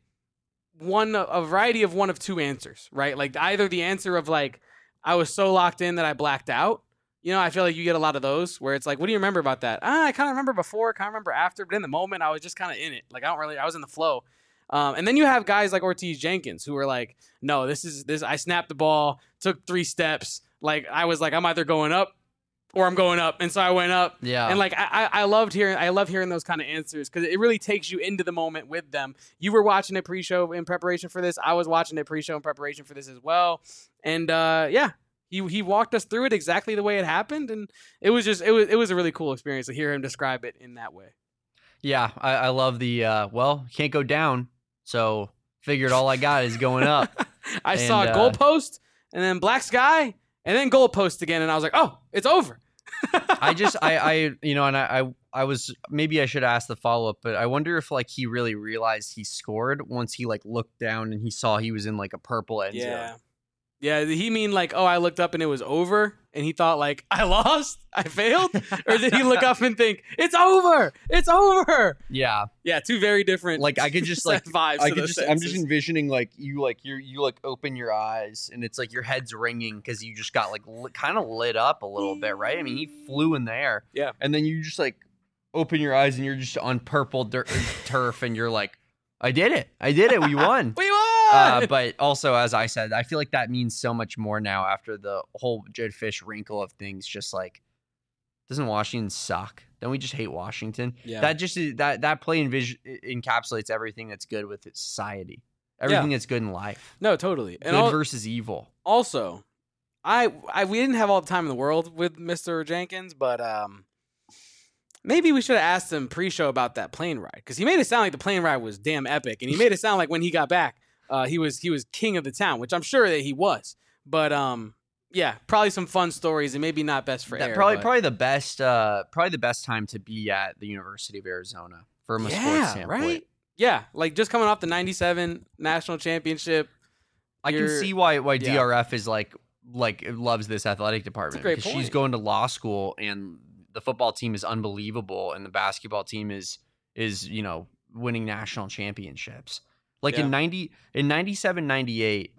Speaker 1: one a variety of one of two answers, right? Like either the answer of like I was so locked in that I blacked out. You know, I feel like you get a lot of those where it's like, what do you remember about that? Ah, I kind of remember before, kind of remember after, but in the moment, I was just kind of in it. Like, I don't really, I was in the flow. Um, and then you have guys like Ortiz Jenkins who are like, no, this is this. I snapped the ball, took three steps. Like, I was like, I'm either going up or I'm going up, and so I went up.
Speaker 2: Yeah.
Speaker 1: And like, I, I loved hearing, I love hearing those kind of answers because it really takes you into the moment with them. You were watching it pre-show in preparation for this. I was watching it pre-show in preparation for this as well. And uh, yeah. He he walked us through it exactly the way it happened, and it was just it was it was a really cool experience to hear him describe it in that way.
Speaker 2: Yeah, I, I love the uh, well, can't go down, so figured all I got is going up.
Speaker 1: I
Speaker 2: and,
Speaker 1: saw a
Speaker 2: uh,
Speaker 1: goalpost, and then black sky, and then goalpost again, and I was like, oh, it's over.
Speaker 2: I just I I you know, and I I, I was maybe I should ask the follow up, but I wonder if like he really realized he scored once he like looked down and he saw he was in like a purple end
Speaker 1: yeah.
Speaker 2: zone.
Speaker 1: Yeah, did he mean like, oh, I looked up and it was over, and he thought like, I lost, I failed? Or did he look up and think, it's over, it's over?
Speaker 2: Yeah.
Speaker 1: Yeah, two very different
Speaker 2: like I could just like
Speaker 1: vibes.
Speaker 2: I could just sentences. I'm just envisioning like you like you you like open your eyes and it's like your head's ringing because you just got like li- kind of lit up a little bit, right? I mean, he flew in the air.
Speaker 1: Yeah.
Speaker 2: And then you just like open your eyes and you're just on purple dirt, turf and you're like, I did it. I did it. We won.
Speaker 1: we won.
Speaker 2: Uh, but also, as I said, I feel like that means so much more now after the whole Jedd Fisch wrinkle of things. Just like, doesn't Washington suck? Don't we just hate Washington?
Speaker 1: Yeah. That
Speaker 2: just that that play envis- encapsulates everything that's good with its society, everything yeah. that's good in life.
Speaker 1: No, totally.
Speaker 2: Good and versus evil.
Speaker 1: Also, I, I we didn't have all the time in the world with Mister Jenkins, but um. Maybe we should have asked him pre-show about that plane ride because he made it sound like the plane ride was damn epic, and he made it sound like when he got back, uh, he was he was king of the town, which I'm sure that he was. But um, yeah, probably some fun stories, and maybe not best for
Speaker 2: that,
Speaker 1: air.
Speaker 2: Probably
Speaker 1: but...
Speaker 2: probably the best uh, probably the best time to be at the University of Arizona from a
Speaker 1: yeah,
Speaker 2: sports standpoint.
Speaker 1: Right? Yeah, like just coming off the ninety-seven national championship.
Speaker 2: I can see why why yeah. D R F is like like loves this athletic department
Speaker 1: because
Speaker 2: she's going to law school and. The football team is unbelievable, and the basketball team is is you know winning national championships. Like yeah. in ninety in ninety-seven, ninety-eight,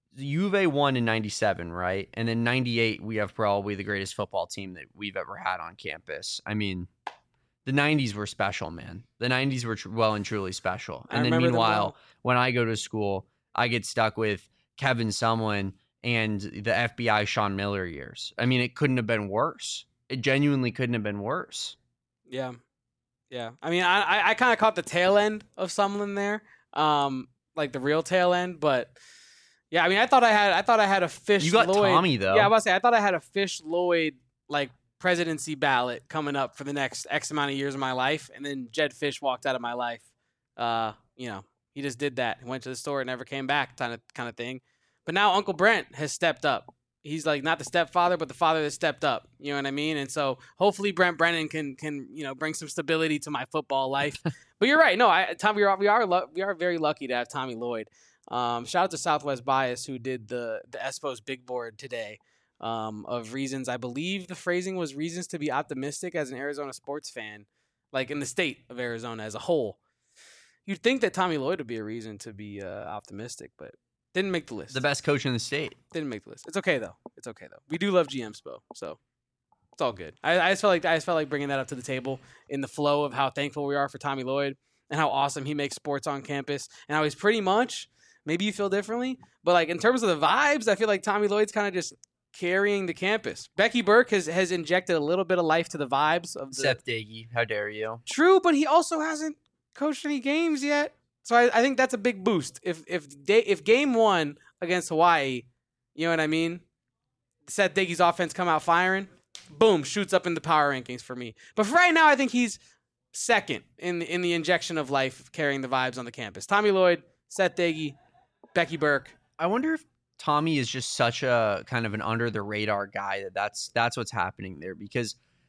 Speaker 2: U of A won in ninety-seven, right? And then ninety-eight, we have probably the greatest football team that we've ever had on campus. I mean, the nineties were special, man. The nineties were tr- well and truly special. And
Speaker 1: I
Speaker 2: then meanwhile,
Speaker 1: well.
Speaker 2: when I go to school, I get stuck with Kevin Sumlin and the F B I Sean Miller years. I mean, it couldn't have been worse. It genuinely couldn't have been worse.
Speaker 1: Yeah. Yeah. I mean, I I, I kind of caught the tail end of Sumlin there, um, like the real tail end. But yeah, I mean, I thought I had I thought I had a Fish.
Speaker 2: You got
Speaker 1: Lloyd,
Speaker 2: Tommy though.
Speaker 1: Yeah, I was about to say I thought I had a Fish Lloyd like presidency ballot coming up for the next X amount of years of my life, and then Jedd Fisch walked out of my life. Uh, you know, he just did that. He went to the store and never came back, kind of kind of thing. But now Uncle Brent has stepped up. He's like not the stepfather, but the father that stepped up. You know what I mean? And so hopefully Brent Brennan can can you know bring some stability to my football life. But you're right. No, I Tom, we are we are we are very lucky to have Tommy Lloyd. Um, shout out to Southwest Bias who did the the Espos big board today um, of reasons. I believe the phrasing was reasons to be optimistic as an Arizona sports fan, like in the state of Arizona as a whole. You'd think that Tommy Lloyd would be a reason to be uh, optimistic, but. Didn't make the list.
Speaker 2: The best coach in the state.
Speaker 1: Didn't make the list. It's okay though. It's okay though. We do love G M Spo, so it's all good. I, I just felt like I just felt like bringing that up to the table in the flow of how thankful we are for Tommy Lloyd and how awesome he makes sports on campus and how he's pretty much. Maybe you feel differently, but like in terms of the vibes, I feel like Tommy Lloyd's kind of just carrying the campus. Becky Burke has has injected a little bit of life to the vibes of the.
Speaker 2: Seth Dagey, how dare you?
Speaker 1: True, but he also hasn't coached any games yet. So I, I think that's a big boost. If if day, if game one against Hawaii, you know what I mean? Seth Dagey's offense come out firing, boom, shoots up in the power rankings for me. But for right now, I think he's second in the, in the injection of life, carrying the vibes on the campus. Tommy Lloyd, Seth Dagey, Becky Burke.
Speaker 2: I wonder if Tommy is just such a kind of an under the radar guy that that's that's what's happening there because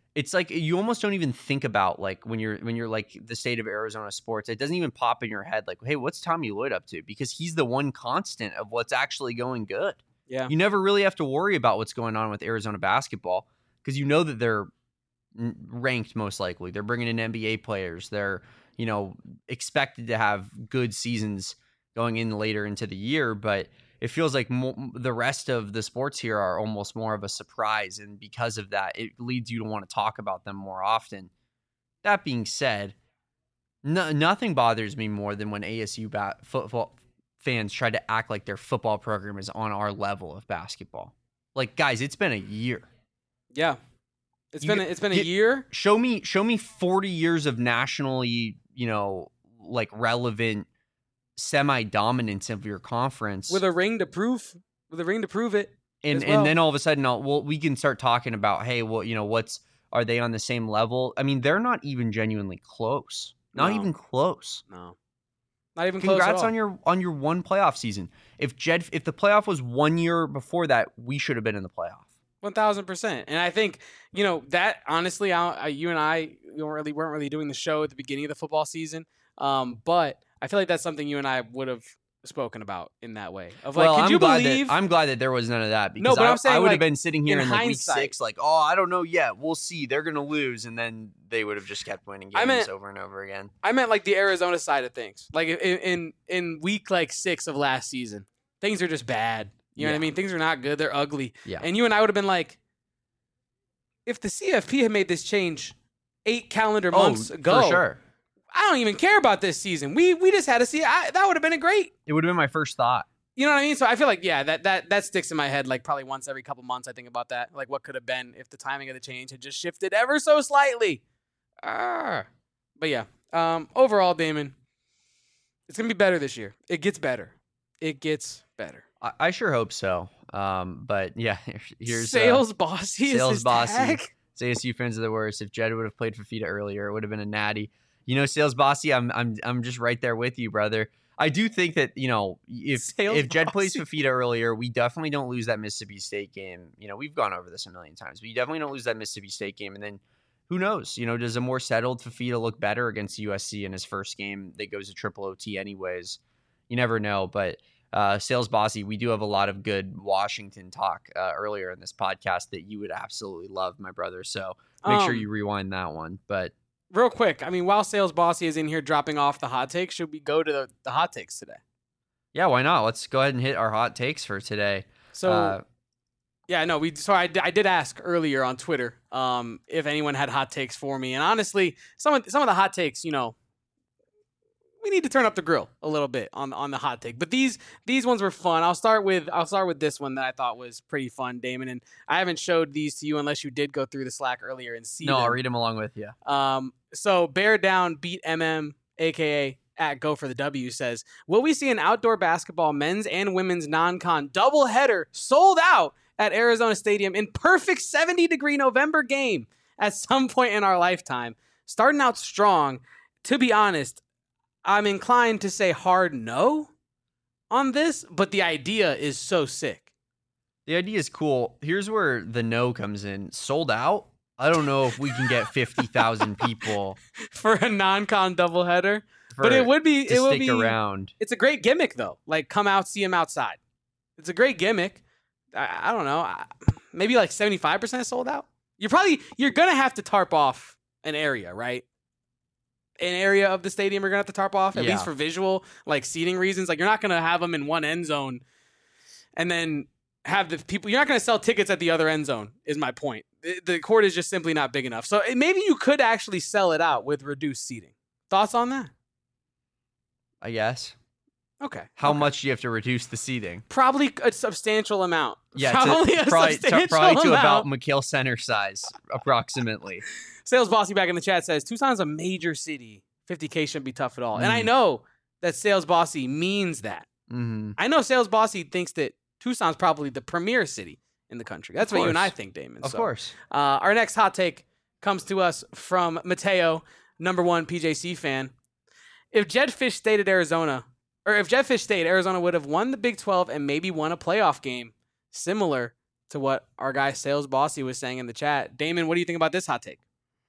Speaker 2: it's like you almost don't even think about like when you're when you're like the state of Arizona sports. It doesn't even pop in your head like, hey, what's Tommy Lloyd up to? Because he's the one constant of what's actually going good.
Speaker 1: Yeah.
Speaker 2: You never really have to worry about what's going on with Arizona basketball because you know that they're ranked most likely. They're bringing in N B A players. They're, you know, expected to have good seasons going in later into the year, but it feels like mo- the rest of the sports here are almost more of a surprise. And because of that, it leads you to want to talk about them more often. That being said, no, nothing bothers me more than when A S U ba- football fans try to act like their football program is on our level of basketball. Like, guys, it's been a year.
Speaker 1: Yeah. It's
Speaker 2: You
Speaker 1: been, a,
Speaker 2: get-
Speaker 1: it's been a
Speaker 2: get-
Speaker 1: year.
Speaker 2: Show me, show me forty years of nationally, you know, like relevant semi-dominance of your conference.
Speaker 1: With a ring to prove, with a ring to prove it.
Speaker 2: and
Speaker 1: as well.
Speaker 2: and then all of a sudden, I'll, well, we can start talking about, hey, well, you know, what's are they on the same level? I mean, they're not even genuinely close. Not
Speaker 1: No.
Speaker 2: even close.
Speaker 1: No. Not even close at
Speaker 2: Congrats
Speaker 1: all.
Speaker 2: on your on your one playoff season. If Jed, if the playoff was one year before that, we should have been in the playoff.
Speaker 1: One thousand percent. And I think, you know, that honestly, I, I, you and I we weren't really weren't really doing the show at the beginning of the football season. Um, but I feel like that's something you and I would have spoken about in that way. Of like,
Speaker 2: well,
Speaker 1: could
Speaker 2: I'm
Speaker 1: you
Speaker 2: glad
Speaker 1: believe?
Speaker 2: that I'm glad that there was none of that because
Speaker 1: No, but
Speaker 2: I,
Speaker 1: I'm saying,
Speaker 2: I would
Speaker 1: like,
Speaker 2: have been sitting here
Speaker 1: in
Speaker 2: in, like
Speaker 1: hindsight-
Speaker 2: week six, like, oh, I don't know yet. We'll see. They're gonna lose, and then they would have just kept winning
Speaker 1: I
Speaker 2: games
Speaker 1: meant-
Speaker 2: over and over again.
Speaker 1: I meant like the Arizona side of things. Like in in, in week like six of last season, things are just bad. You know what I
Speaker 2: Yeah.
Speaker 1: mean? Things are not good. They're ugly.
Speaker 2: Yeah.
Speaker 1: And you and I would have been like, if the C F P had made this change eight calendar months
Speaker 2: oh,
Speaker 1: ago,
Speaker 2: for sure.
Speaker 1: I don't even care about this season. We we just had to see. I, that would have been a great.
Speaker 2: It would have been my first thought.
Speaker 1: You know what I mean? So I feel like, yeah, that that that sticks in my head like probably once every couple months I think about that. Like what could have been if the timing of the change had just shifted ever so slightly. Ah. But yeah, um, overall, Damon, it's going to be better this year. It gets better. It gets better.
Speaker 2: I, I sure hope so. Um, but yeah, here's
Speaker 1: Sales
Speaker 2: uh,
Speaker 1: Bossy is
Speaker 2: Sales
Speaker 1: his
Speaker 2: Bossy.
Speaker 1: tag.
Speaker 2: A S U fans are the worst. If Jed would have played Fafita earlier, it would have been a natty. You know, Sales Bossy, I'm I'm I'm just right there with you, brother. I do think that, you know, if
Speaker 1: Sales
Speaker 2: if Jed plays
Speaker 1: Bossy.
Speaker 2: Fafita earlier, we definitely don't lose that Mississippi State game. You know, we've gone over this a million times, but you definitely don't lose that Mississippi State game. And then who knows? You know, does a more settled Fafita look better against U S C in his first game that goes to triple O T anyways? You never know. But uh, Sales Bossy, we do have a lot of good Washington talk uh, earlier in this podcast that you would absolutely love, my brother. So make sure
Speaker 1: Um,
Speaker 2: you rewind that one. But
Speaker 1: Real quick, I mean, while Sales Bossy is in here dropping off the hot takes, should we go to the, the hot takes today?
Speaker 2: yeah, why not? Let's go ahead and hit our hot takes for today.
Speaker 1: So,
Speaker 2: Uh,
Speaker 1: yeah, no, we. So I, d- I did ask earlier on Twitter um, if anyone had hot takes for me, and honestly, some of some of the hot takes, you know, we need to turn up the grill a little bit on on the hot take. But these these ones were fun. I'll start with I'll start with this one that I thought was pretty fun, Damon. And I haven't showed these to you unless you did go through the Slack earlier and see
Speaker 2: no,
Speaker 1: them.
Speaker 2: I'll read them along with you.
Speaker 1: Um, so Bear Down beat M M, aka at Go for the W, says, will we see an outdoor basketball men's and women's non-con doubleheader sold out at Arizona Stadium in perfect seventy degree November game at some point in our lifetime? Starting out strong, to be honest, I'm inclined to say hard no on this, but the idea is so sick.
Speaker 2: The idea is cool. Here's where the no comes in. Sold out? I don't know if we can get fifty thousand people
Speaker 1: For a non-con doubleheader.
Speaker 2: for,
Speaker 1: But it would be
Speaker 2: to
Speaker 1: it would
Speaker 2: stick
Speaker 1: be
Speaker 2: around.
Speaker 1: It's a great gimmick, though. Like, come out, see him outside. It's a great gimmick. I, I don't know. I, maybe like seventy-five percent sold out. You're probably, you're going to have to tarp off an area, right? An area of the stadium you're going to have to tarp off, at
Speaker 2: Yeah.
Speaker 1: least for visual, like seating reasons. Like, you're not going to have them in one end zone and then have the people, you're not going to sell tickets at the other end zone, is my point. The, the court is just simply not big enough. So it, maybe you could actually sell it out with reduced seating. Thoughts on that?
Speaker 2: I guess.
Speaker 1: Okay.
Speaker 2: How
Speaker 1: okay.
Speaker 2: much do you have to reduce the seating?
Speaker 1: Probably a substantial amount.
Speaker 2: Yeah,
Speaker 1: probably
Speaker 2: to,
Speaker 1: a
Speaker 2: probably, to,
Speaker 1: substantial
Speaker 2: probably to
Speaker 1: amount.
Speaker 2: about McHale Center size, approximately.
Speaker 1: Sales Bossy back in the chat says Tucson's a major city. fifty K shouldn't be tough at all. And I
Speaker 2: Mm.
Speaker 1: know that Sales Bossy means that.
Speaker 2: Mm-hmm.
Speaker 1: I know Sales Bossy thinks that Tucson's probably the premier city in the country. That's
Speaker 2: Of
Speaker 1: what you and I
Speaker 2: course.
Speaker 1: think, Damon.
Speaker 2: Of
Speaker 1: So,
Speaker 2: course.
Speaker 1: Uh, our next hot take comes to us from Mateo, number one P J C fan. If Jed Fish stayed at Arizona, or if Jed Fish stayed, Arizona would have won the Big twelve and maybe won a playoff game similar to what our guy Sales Bossy was saying in the chat. Damon, what do you think about this hot take?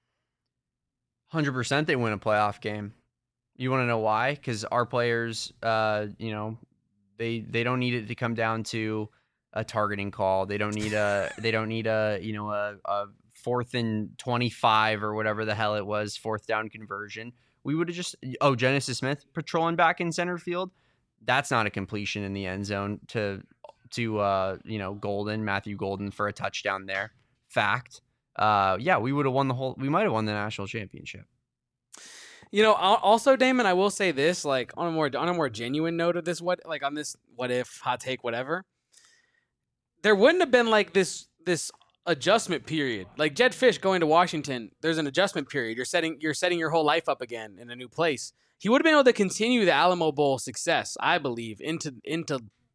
Speaker 2: one hundred percent they win a playoff game. You want to know why? Because our players, uh, you know, they they don't need it to come down to a targeting call. They don't need a they don't need a you know a, a fourth and twenty-five or whatever the hell it was, fourth down conversion. We would have just oh Genesis Smith patrolling back in center field. That's not a completion in the end zone to to uh, you know Golden Matthew Golden for a touchdown there. Fact. Uh, yeah, we would have won the whole. We might have won the national championship.
Speaker 1: You know, also, Damon, I will say this, like on a more on a more genuine note of this, what like on this what if hot take, whatever. There wouldn't have been like this this adjustment period. Like Jedd Fisch going to Washington, there's an adjustment period. You're setting you're setting your whole life up again in a new place. He would have been able to continue the Alamo Bowl success, I believe, into into.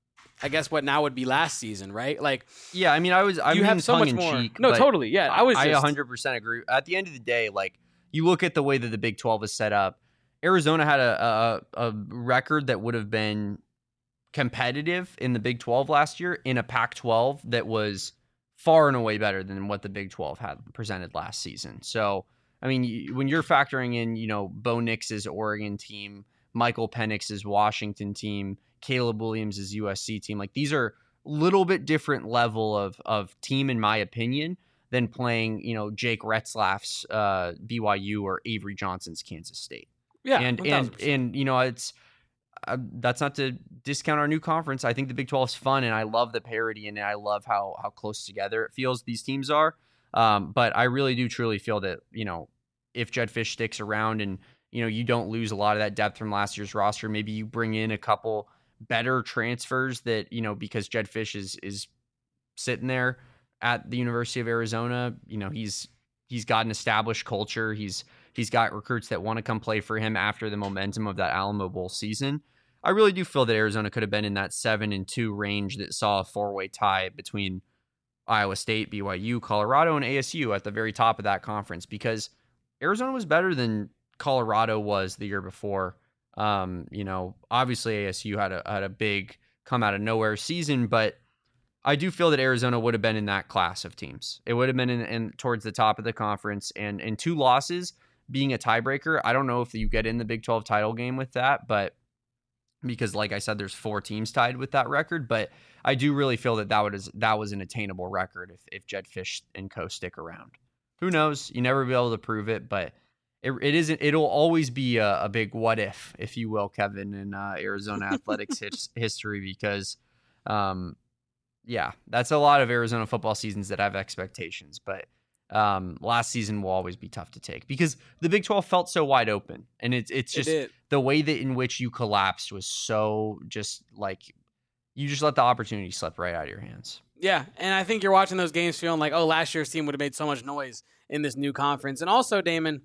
Speaker 1: I guess what now would be last season, right? Like,
Speaker 2: yeah, I mean, I was, I
Speaker 1: you
Speaker 2: mean,
Speaker 1: have so much more.
Speaker 2: Cheek,
Speaker 1: no, totally, yeah. I was,
Speaker 2: I
Speaker 1: just...
Speaker 2: one hundred percent agree. At the end of the day, like, you look at the way that the Big twelve is set up. Arizona had a a, a record that would have been competitive in the Big twelve last year in a Pac twelve that was far and away better than what the Big twelve had presented last season. So, I mean, when you're factoring in, you know, Bo Nix's Oregon team, Michael Penix's Washington team, Caleb Williams' U S C team. Like, these are a little bit different level of of team, in my opinion, than playing, you know, Jake Retzlaff's uh, B Y U or Avery Johnson's Kansas State.
Speaker 1: Yeah,
Speaker 2: and
Speaker 1: one thousand percent.
Speaker 2: and and you know, it's uh, that's not to discount our new conference. I think the Big twelve is fun, and I love the parity, and I love how how close together it feels these teams are. Um, but I really do truly feel that, you know, if Jedd Fisch sticks around and, you know, you don't lose a lot of that depth from last year's roster, maybe you bring in a couple better transfers that, you know, because Jedd Fisch is is sitting there at the University of Arizona, you know, he's he's got an established culture. He's he's got recruits that want to come play for him after the momentum of that Alamo Bowl season. I really do feel that Arizona could have been in that seven and two range that saw a four-way tie between Iowa State, B Y U, Colorado, and A S U at the very top of that conference, because Arizona was better than Colorado was the year before. Um, you know, obviously A S U had a had a big come out of nowhere season, but I do feel that Arizona would have been in that class of teams. It would have been in, in towards the top of the conference, and and two losses being a tiebreaker. I don't know if you get in the Big twelve title game with that, but because, like I said, there's four teams tied with that record. But I do really feel that that was that was an attainable record if if Jedd Fisch and co stick around. Who knows? You never be able to prove it, but It, it isn't. It'll always be a, a big what if, if you will, Kevin, in uh, Arizona athletics his, history, because, um, yeah, that's a lot of Arizona football seasons that have expectations. But um, last season will always be tough to take because the Big twelve felt so wide open, and it's it's just
Speaker 1: it
Speaker 2: the way that in which you collapsed was so just like you just let the opportunity slip right out of your hands.
Speaker 1: Yeah, and I think you're watching those games feeling like, oh, last year's team would have made so much noise in this new conference, and also, Damon.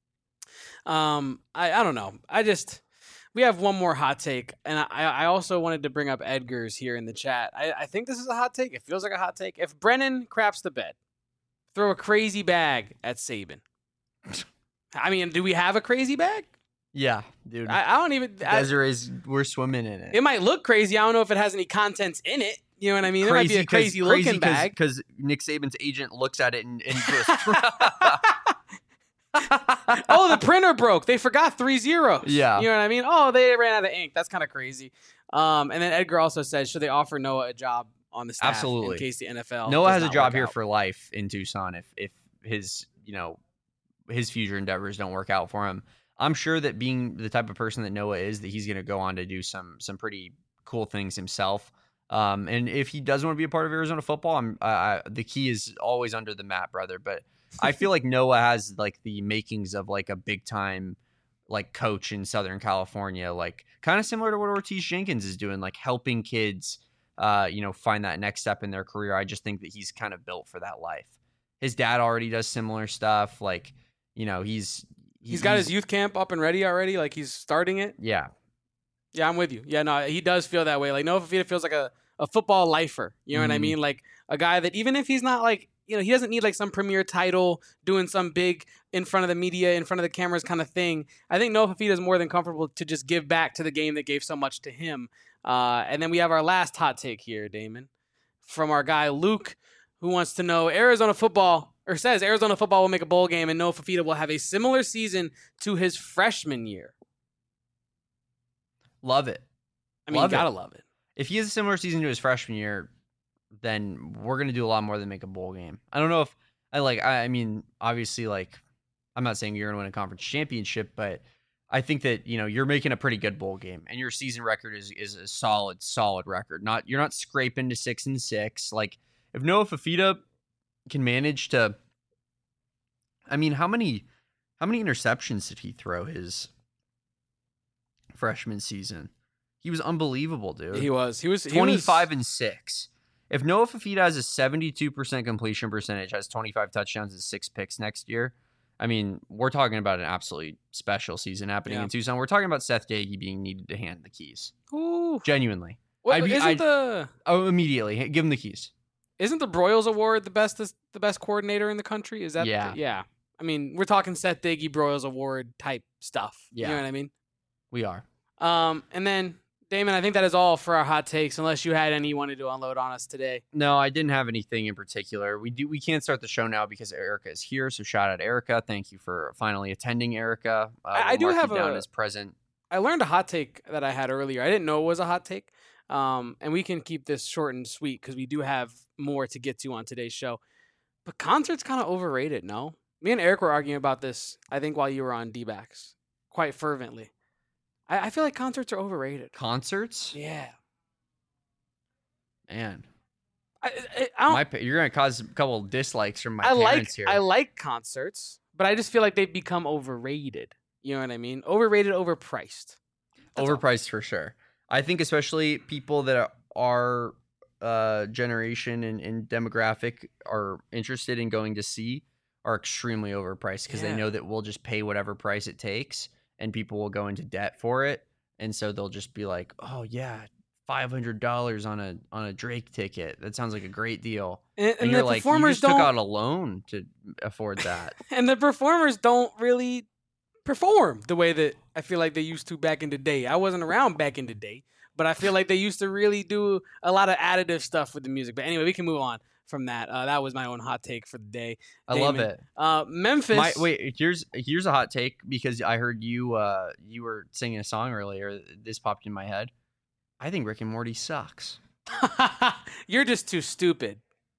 Speaker 1: Um, I, I don't know. I just, we have one more hot take, and I, I also wanted to bring up Edgar's here in the chat. I, I think this is a hot take. It feels like a hot take. If Brennan craps the bed, throw a crazy bag at Saban. I mean, do we have a crazy bag?
Speaker 2: Yeah, dude.
Speaker 1: I, I don't even.
Speaker 2: Desiree's, we're swimming in it.
Speaker 1: It might look crazy. I don't know if it has any contents in it. You know what I mean? It might be a crazy looking
Speaker 2: crazy
Speaker 1: bag.
Speaker 2: Because Nick Saban's agent looks at it and, and just.
Speaker 1: Oh, the printer broke. They forgot three zeros.
Speaker 2: Yeah.
Speaker 1: You know what I mean? Oh, they ran out of ink. That's kind of crazy. Um, and then Edgar also said, should they offer Noah a job on the staff
Speaker 2: Absolutely.
Speaker 1: in case the N F L
Speaker 2: Noah has a
Speaker 1: not
Speaker 2: job
Speaker 1: work
Speaker 2: here
Speaker 1: out?
Speaker 2: for life in Tucson if if his, you know, his future endeavors don't work out for him. I'm sure that being the type of person that Noah is, that he's going to go on to do some some pretty cool things himself. Um, and if he does want to be a part of Arizona football, I'm, uh, the key is always under the mat, brother. But I feel like Noah has like the makings of like a big time like coach in Southern California, like kind of similar to what Ortiz Jenkins is doing, like helping kids, uh, you know, find that next step in their career. I just think that he's kind of built for that life. His dad already does similar stuff. Like, you know, he's,
Speaker 1: he's, he's got his youth camp up and ready already. Like he's starting it.
Speaker 2: Yeah.
Speaker 1: Yeah, I'm with you. Yeah, no, he does feel that way. Like Noah Fifita feels like a, a football lifer. You know mm-hmm. what I mean? Like a guy that even if he's not like, you know, he doesn't need like some premier title doing some big in front of the media, in front of the cameras kind of thing. I think Noah Fifita is more than comfortable to just give back to the game that gave so much to him. Uh, and then we have our last hot take here, Damon. from our guy Luke, who wants to know Arizona football, or says Arizona football will make a bowl game and Noah Fifita will have a similar season to his freshman year.
Speaker 2: Love it.
Speaker 1: I mean,
Speaker 2: love
Speaker 1: you gotta
Speaker 2: it.
Speaker 1: love it.
Speaker 2: If he has a similar season to his freshman year, then we're gonna do a lot more than make a bowl game. I don't know if I like. I, I mean, obviously, like, I'm not saying you're gonna win a conference championship, but I think that, you know, you're making a pretty good bowl game, and your season record is is a solid, solid record. Not you're not scraping to six and six. Like, if Noah Fifita can manage to, I mean, how many how many interceptions did he throw his freshman season? He was unbelievable, dude.
Speaker 1: He was. He was he
Speaker 2: twenty-five
Speaker 1: was,
Speaker 2: and six. If Noah Fifita has a seventy-two percent completion percentage, has twenty-five touchdowns and six picks next year, I mean, we're talking about an absolutely special season happening
Speaker 1: Yeah.
Speaker 2: in Tucson. We're talking about Seth Gagey being needed to hand the keys.
Speaker 1: Ooh.
Speaker 2: Genuinely.
Speaker 1: Well,
Speaker 2: I'd be-
Speaker 1: isn't
Speaker 2: I'd-
Speaker 1: the
Speaker 2: Oh, immediately. Give him the keys.
Speaker 1: isn't the Broyles Award the best the best coordinator in the country? Is that
Speaker 2: Yeah.
Speaker 1: yeah. I mean, we're talking Seth Diggy Broyles Award type stuff.
Speaker 2: Yeah.
Speaker 1: You know what I mean?
Speaker 2: We are.
Speaker 1: Um, and then Damon, I think that is all for our hot takes, unless you had any you wanted to unload on us today.
Speaker 2: No, I didn't have anything in particular. We do. We can't start the show now because Erica is here. So shout out Erica. Thank you for finally attending, Erica. Uh,
Speaker 1: I- I
Speaker 2: we'll
Speaker 1: do
Speaker 2: mark you
Speaker 1: have
Speaker 2: down
Speaker 1: a-
Speaker 2: as present.
Speaker 1: I learned a hot take that I had earlier. I didn't know it was a hot take. Um, and we can keep this short and sweet because we do have more to get to on today's show. But concerts kind of overrated, no? Me and Eric were arguing about this, I think, while you were on D-backs, quite fervently. I, I feel like concerts are overrated.
Speaker 2: Concerts,
Speaker 1: Yeah.
Speaker 2: man.
Speaker 1: I, I, I don't.
Speaker 2: My, pa- you're gonna cause a couple of dislikes from my
Speaker 1: I like
Speaker 2: parents here.
Speaker 1: I like concerts, but I just feel like they've become overrated. You know what I mean? Overrated, overpriced. That's all.
Speaker 2: Overpriced for sure. I think especially people that are, our uh, generation and, and demographic are interested in going to see are extremely overpriced because
Speaker 1: Yeah.
Speaker 2: they know that we'll just pay whatever price it takes, and people will go into debt for it, and so they'll just be like, "Oh yeah, five hundred dollars on a on a Drake ticket. That sounds like a great deal."
Speaker 1: And,
Speaker 2: And,
Speaker 1: and
Speaker 2: you're
Speaker 1: the
Speaker 2: like, "You
Speaker 1: performers
Speaker 2: just took
Speaker 1: don't.
Speaker 2: out a loan to afford that."
Speaker 1: And the performers don't really perform the way that I feel like they used to back in the day. I wasn't around back in the day, but I feel like they used to really do a lot of additive stuff with the music. But anyway, we can move on from that. Uh, that was my own hot take for the day.
Speaker 2: I love
Speaker 1: Damon.
Speaker 2: it.
Speaker 1: Uh, Memphis.
Speaker 2: My, wait, here's here's a hot take because I heard you uh you were singing a song earlier. This popped in my head. I think Rick and Morty sucks.
Speaker 1: You're just too stupid.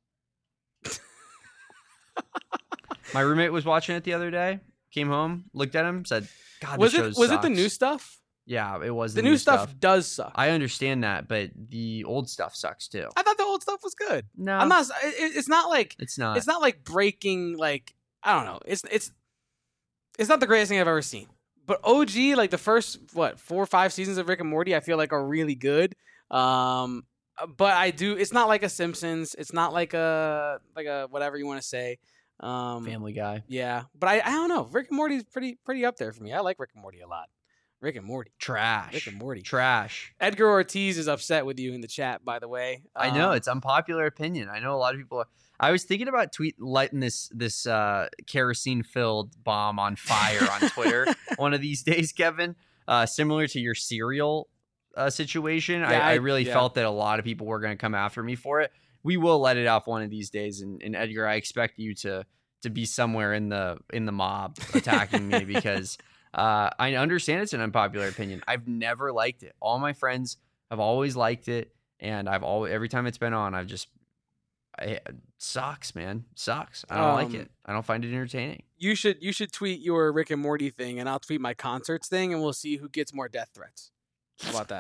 Speaker 2: My roommate was watching it the other day. Came home, looked at him, said, "God,
Speaker 1: Was
Speaker 2: this
Speaker 1: it
Speaker 2: show
Speaker 1: was it the
Speaker 2: sucks."
Speaker 1: new stuff?
Speaker 2: Yeah, it was
Speaker 1: The, new stuff, does suck. I,
Speaker 2: I understand that, but the old stuff sucks too.
Speaker 1: thought the old stuff was good.
Speaker 2: No,
Speaker 1: I'm not. It, it's not like
Speaker 2: It's not.
Speaker 1: it's not like breaking. Like I don't know. It's it's it's not the greatest thing I've ever seen. But O G, like the first what four or five seasons of Rick and Morty, I feel like are really good. Um, but I do. It's not like a Simpsons. It's not like a like a whatever you want to say. Um,
Speaker 2: Family Guy.
Speaker 1: Yeah, but I I don't know. Rick and Morty's pretty pretty up there for me. I like Rick and Morty a lot. Rick and Morty.
Speaker 2: Trash.
Speaker 1: Rick and Morty.
Speaker 2: Trash.
Speaker 1: Edgar Ortiz is upset with you in the chat, by the way.
Speaker 2: I know
Speaker 1: Um,
Speaker 2: it's unpopular opinion. I know a lot of people. Are, I was thinking about tweet lighting this this uh, kerosene filled bomb on fire on Twitter one of these days, Kevin. Uh, similar to your cereal uh, situation, I,
Speaker 1: Yeah,
Speaker 2: I
Speaker 1: I-
Speaker 2: really
Speaker 1: yeah.
Speaker 2: felt that a lot of people were going to come after me for it. We will let it off one of these days, and, and Edgar, I expect you to to be somewhere in the in the mob attacking me because. Uh, I understand it's an unpopular opinion. I've never liked it. All my friends have always liked it, and I've always every time it's been on, I've just I, it sucks, man, sucks. I don't like
Speaker 1: Um,
Speaker 2: it. I don't find it entertaining.
Speaker 1: You should you should tweet your Rick and Morty thing, and I'll tweet my concerts thing, and we'll see who gets more death threats. How about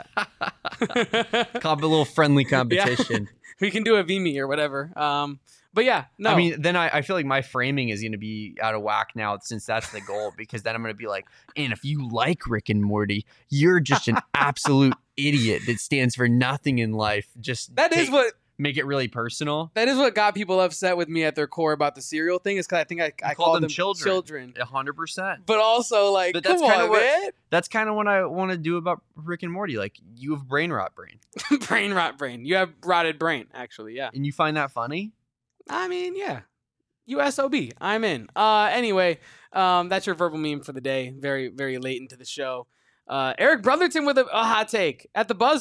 Speaker 1: that?
Speaker 2: Call it a little friendly competition.
Speaker 1: We can do a V M E or whatever. Um, but yeah, no.
Speaker 2: I mean, then I, I feel like my framing is going to be out of whack now since that's the goal, because then I'm going to be like, and if you like Rick and Morty, you're just an absolute idiot that stands for nothing in life. Just
Speaker 1: that is
Speaker 2: take-
Speaker 1: what
Speaker 2: make it really personal.
Speaker 1: that is what got people upset with me at their core about the cereal thing. Is because I think I, I
Speaker 2: call
Speaker 1: called
Speaker 2: them
Speaker 1: them
Speaker 2: children.
Speaker 1: children.
Speaker 2: A hundred percent.
Speaker 1: But also, like,
Speaker 2: But
Speaker 1: come
Speaker 2: that's kinda
Speaker 1: on,
Speaker 2: what-
Speaker 1: man.
Speaker 2: That's kind of what I want to do about Rick and Morty. Like, you have brain rot brain,
Speaker 1: Brain rot brain. You have rotted brain, actually. Yeah.
Speaker 2: and you find that funny.
Speaker 1: I mean, yeah. U S O B. I'm in. Uh, anyway, um, that's your verbal meme for the day. Very, very late into the show. Uh, Eric Brotherton with a, a hot take at the buzzer.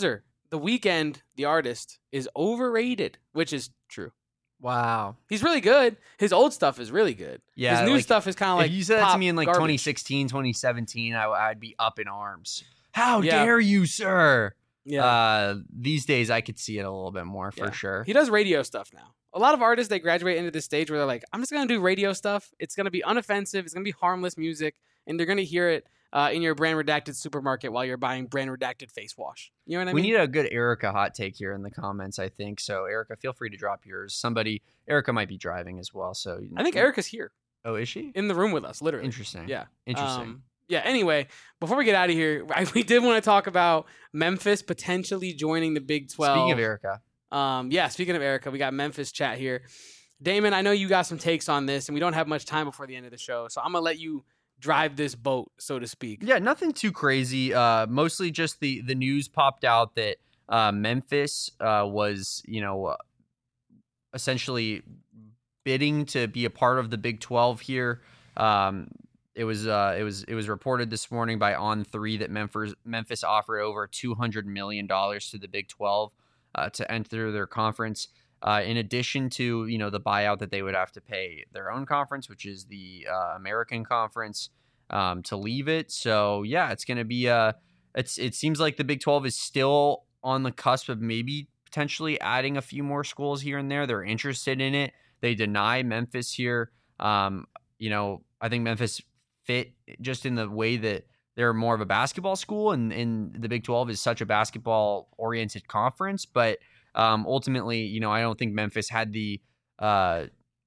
Speaker 1: The Weeknd, the artist, is overrated, which is true.
Speaker 2: Wow.
Speaker 1: He's really good. His old stuff is really good.
Speaker 2: Yeah,
Speaker 1: His new
Speaker 2: like,
Speaker 1: stuff is kind of like
Speaker 2: if you said that to me in like
Speaker 1: garbage.
Speaker 2: twenty sixteen, twenty seventeen, I, I'd be up in arms. How
Speaker 1: Yeah.
Speaker 2: dare you, sir?
Speaker 1: Yeah.
Speaker 2: Uh, these days, I could see it a little bit more for
Speaker 1: Yeah.
Speaker 2: sure.
Speaker 1: He does radio stuff now. A lot of artists, they graduate into this stage where they're like, I'm just going to do radio stuff. It's going to be unoffensive. It's going to be harmless music. And they're going to hear it uh, in your brand redacted supermarket while you're buying brand redacted face wash. You know what I
Speaker 2: We
Speaker 1: mean?
Speaker 2: need a good Erica hot take here in the comments, I think. So, Erica, feel free to drop yours. Somebody, Erica might be driving as well. So,
Speaker 1: I think Erica's here
Speaker 2: Oh, is she?
Speaker 1: in the room with us, literally.
Speaker 2: Interesting.
Speaker 1: Yeah.
Speaker 2: Interesting.
Speaker 1: Um, yeah. Anyway, before we get out of here, I, we did want to talk about Memphis potentially joining the Big twelve.
Speaker 2: Speaking of Erica,
Speaker 1: Um, yeah, speaking of Erica, we got Memphis chat here. Damon, I know you got some takes on this, and we don't have much time before the end of the show, so I'm gonna let you drive this boat, so to speak.
Speaker 2: yeah, nothing too crazy. Uh, mostly just the the news popped out that uh, Memphis uh, was, you know, uh, essentially bidding to be a part of the Big twelve here. Um, it was uh, it was it was reported this morning by On three that Memphis Memphis offered over two hundred million dollars to the Big twelve uh, to enter their conference. Uh, in addition to, you know, the buyout that they would have to pay their own conference, which is the uh, American Conference, um, to leave it. So yeah, it's going to be a. It's it seems like the Big twelve is still on the cusp of maybe potentially adding a few more schools here and there. They're interested in it. They deny Memphis here. Um, you know, I think Memphis fit just in the way that they're more of a basketball school, and, and the Big twelve is such a basketball oriented conference, but. Um, ultimately, you know, I don't think Memphis had the uh,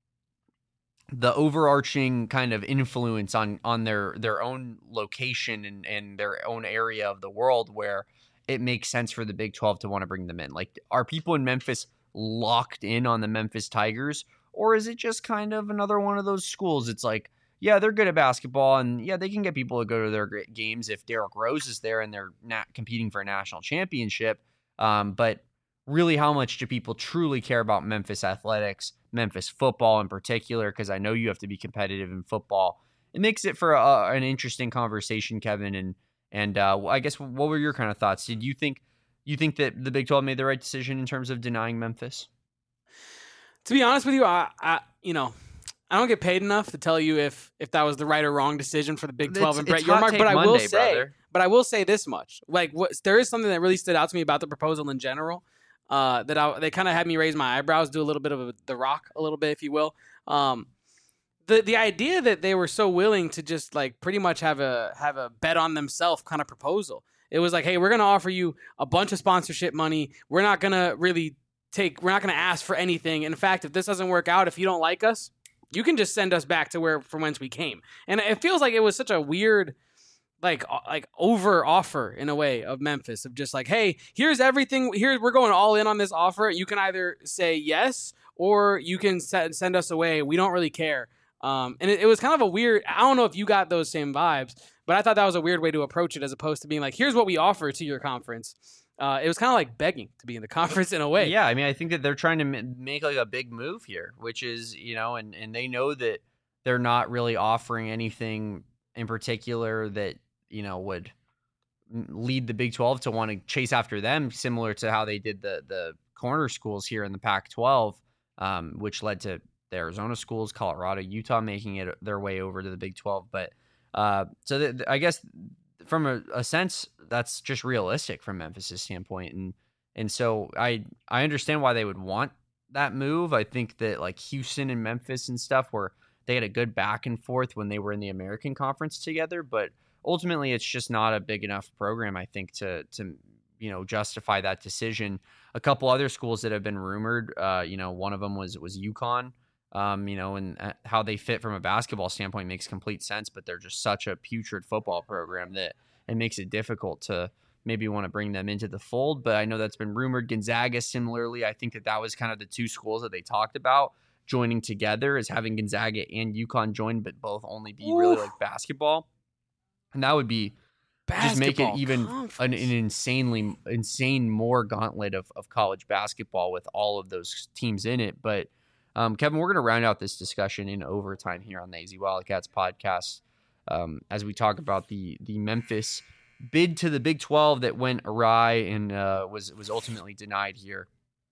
Speaker 2: the overarching kind of influence on on their their own location and, and their own area of the world where it makes sense for the Big twelve to want to bring them in. Like, are people in Memphis locked in on the Memphis Tigers, or is it just kind of another one of those schools? It's like, yeah, they're good at basketball, and yeah, they can get people to go to their great games if Derrick Rose is there and they're not competing for a national championship. Um, but really, how much do people truly care about Memphis athletics, Memphis football in particular? Because I know you have to be competitive in football. It makes it for a, an interesting conversation, Kevin. And and uh, I guess what were your kind of thoughts? Did you think you think that the Big twelve made the right decision in terms of denying Memphis?
Speaker 1: To be honest with you, I, I you know, I don't get paid enough to tell you if if that was the right or wrong decision for the Big twelve
Speaker 2: It's-
Speaker 1: and Brett
Speaker 2: it's hot
Speaker 1: Yormark.
Speaker 2: take
Speaker 1: But I will
Speaker 2: Monday,
Speaker 1: say,
Speaker 2: brother.
Speaker 1: but I will say this much: like, what there is something that really stood out to me about the proposal in general. Uh, that I, they kind of had me raise my eyebrows, do a little bit of a, the Rock, a little bit, if you will. Um, the the idea that they were so willing to just like pretty much have a have a bet on themselves kind of proposal. It was like, hey, we're gonna offer you a bunch of sponsorship money. We're not gonna really take. We're not gonna ask for anything. In fact, if this doesn't work out, if you don't like us, you can just send us back to where from whence we came. And it feels like it was such a weird. Like like over offer in a way of Memphis of just like, hey, here's everything. Here we're going all in on this offer. You can either say yes or you can send send us away. We don't really care. Um, and it, it was kind of a weird. I don't know if you got those same vibes, but I thought that was a weird way to approach it as opposed to being like, here's what we offer to your conference. Uh, it was kind of like begging to be in the conference in a way.
Speaker 2: Yeah, I mean, I think that they're trying to m- make like a big move here, which is, you know, and and they know that they're not really offering anything in particular that, you know, would lead the Big twelve to want to chase after them, similar to how they did the the corner schools here in the Pac twelve, um, which led to the Arizona schools, Colorado, Utah making it their way over to the Big twelve. But uh, so th- th- I guess from a, a sense, that's just realistic from Memphis' standpoint, and and so I I understand why they would want that move. I think that like Houston and Memphis and stuff, where they had a good back and forth when they were in the American Conference together, but ultimately, it's just not a big enough program, I think, to to you know justify that decision. A couple other schools that have been rumored, uh, you know, one of them was was UConn, um, you know, and how they fit from a basketball standpoint makes complete sense, but they're just such a putrid football program that it makes it difficult to maybe want to bring them into the fold. But I know that's been rumored. Gonzaga, similarly, I think that that was kind of the two schools that they talked about joining together, as having Gonzaga and UConn join, but both only be
Speaker 1: Oof.
Speaker 2: really like basketball. And that would be just make it
Speaker 1: Basketball
Speaker 2: even
Speaker 1: conference.
Speaker 2: an, an insanely insane more gauntlet of, of college basketball with all of those teams in it. But um, Kevin, we're going to round out this discussion in overtime here on the A Z Wildcats podcast um, as we talk about the the Memphis bid to the Big twelve that went awry and uh, was was ultimately denied here.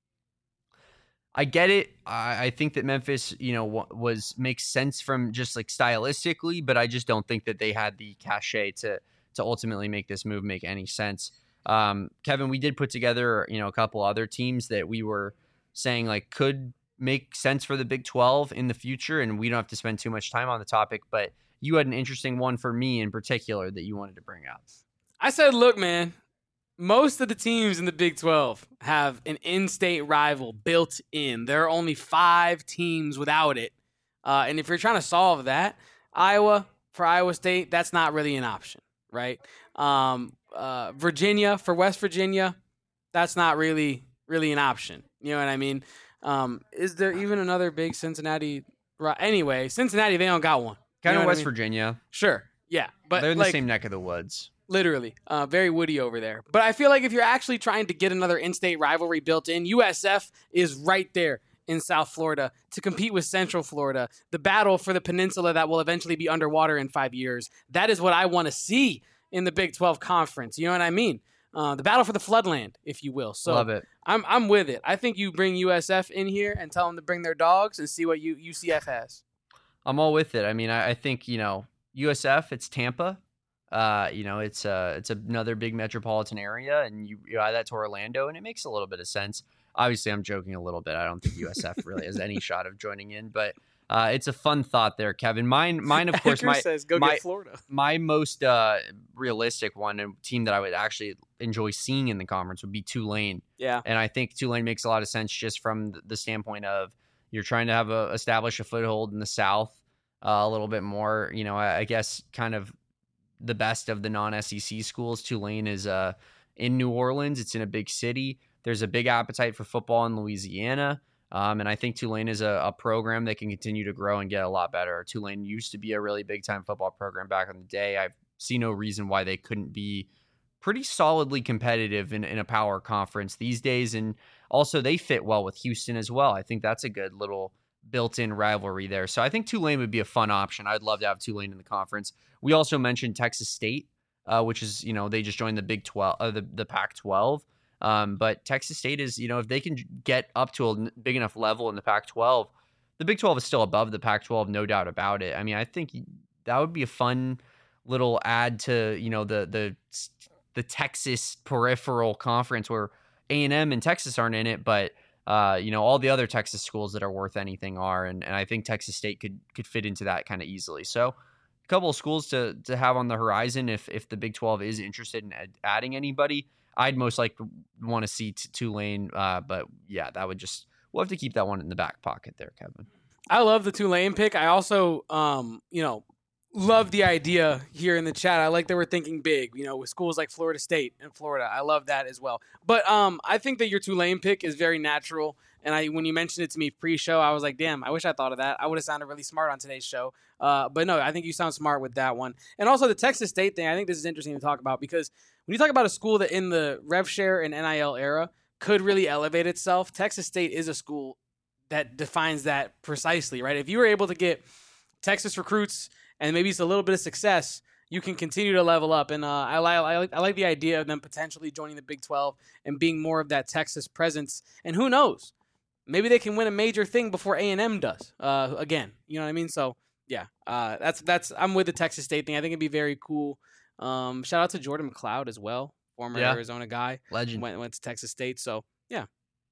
Speaker 2: I get it. I, I think that Memphis, you know, w- was makes sense from just like stylistically, but I just don't think that they had the cachet to to ultimately make this move make any sense. Um, Kevin, we did put together, you know, a couple other teams that we were saying like could make sense for the Big twelve in the future, and we don't have to spend too much time on the topic, but you had an interesting one for me in particular that you wanted to bring up.
Speaker 1: I said, look, man, most of the teams in the Big twelve have an in-state rival built in. There are only five teams without it. Uh, and if you're trying to solve that, Iowa, for Iowa State, that's not really an option, right? Um, uh, Virginia, for West Virginia, that's not really, really an option. You know what I mean? Um, is there even another big Cincinnati? Anyway, Cincinnati, they don't got one.
Speaker 2: Kind
Speaker 1: you know
Speaker 2: of West
Speaker 1: I mean?
Speaker 2: Virginia.
Speaker 1: Sure, yeah. But
Speaker 2: they're in
Speaker 1: like,
Speaker 2: the same neck of the woods.
Speaker 1: Literally, uh, very woody over there. But I feel like if you're actually trying to get another in-state rivalry built in, U S F is right there in South Florida to compete with Central Florida. The battle for the peninsula that will eventually be underwater in five years. That is what I want to see in the Big twelve Conference. You know what I mean? Uh, the battle for the floodland, if you will. So
Speaker 2: Love it.
Speaker 1: I'm I'm with it. I think you bring U S F in here and tell them to bring their dogs and see what you, U C F has. I'm
Speaker 2: all with it. I mean, I, I think, you know, U S F, it's Tampa. Uh, you know, it's uh, it's another big metropolitan area, and you, you add that to Orlando, and it makes a little bit of sense. Obviously, I'm joking a little bit. I don't think U S F really has any shot of joining in, but uh, it's a fun thought there, Kevin. Mine, mine, of course, my
Speaker 1: says, go
Speaker 2: my,
Speaker 1: get Florida.
Speaker 2: My most uh, realistic one and team that I would actually enjoy seeing in the conference would be Tulane.
Speaker 1: Yeah,
Speaker 2: and I think Tulane makes a lot of sense just from the standpoint of you're trying to have a establish a foothold in the South uh, a little bit more. You know, I, I guess kind of the best of the non-S E C schools. Tulane is uh, in New Orleans. It's in a big city. There's a big appetite for football in Louisiana. Um, and I think Tulane is a, a program that can continue to grow and get a lot better. Tulane used to be a really big-time football program back in the day. I see no reason why they couldn't be pretty solidly competitive in, in a power conference these days. And also they fit well with Houston as well. I think that's a good little built-in rivalry there. So I think Tulane would be a fun option. I'd love to have Tulane in the conference. We also mentioned Texas State, uh, which is, you know, they just joined the Big twelve, uh, the, the Pac twelve. Um, but Texas State is, you know, if they can get up to a big enough level in the Pac twelve, the Big twelve is still above the Pac twelve, no doubt about it. I mean, I think that would be a fun little add to, you know, the the the Texas peripheral conference where A and M and Texas aren't in it, but uh, you know, all the other Texas schools that are worth anything are, and, and I think Texas State could could fit into that kind of easily. So a couple of schools to to have on the horizon if if the Big twelve is interested in ad- adding anybody. I'd most likely want to see t- Tulane, uh, but yeah, that would just we'll have to keep that one in the back pocket there, Kevin.
Speaker 1: I love the Tulane pick. I also, um, you know, love the idea here in the chat. I like that we're thinking big, you know, with schools like Florida State and Florida. I love that as well. But um, I think that your Tulane pick is very natural. And I, when you mentioned it to me pre-show, I was like, damn, I wish I thought of that. I would have sounded really smart on today's show. Uh, but no, I think you sound smart with that one. And also the Texas State thing, I think this is interesting to talk about because when you talk about a school that in the rev share and N I L era could really elevate itself, Texas State is a school that defines that precisely, right? If you were able to get Texas recruits and maybe it's a little bit of success, you can continue to level up. And uh, I, li- I, like, I like the idea of them potentially joining the Big twelve and being more of that Texas presence. And who knows? Maybe they can win a major thing before A and M does uh, again. You know what I mean? So, yeah, uh, that's that's. I'm with the Texas State thing. I think it'd be very cool. Um, shout out to Jordan McLeod as well, former
Speaker 2: yeah.
Speaker 1: Arizona guy.
Speaker 2: Legend.
Speaker 1: Went, went to Texas State. So, yeah.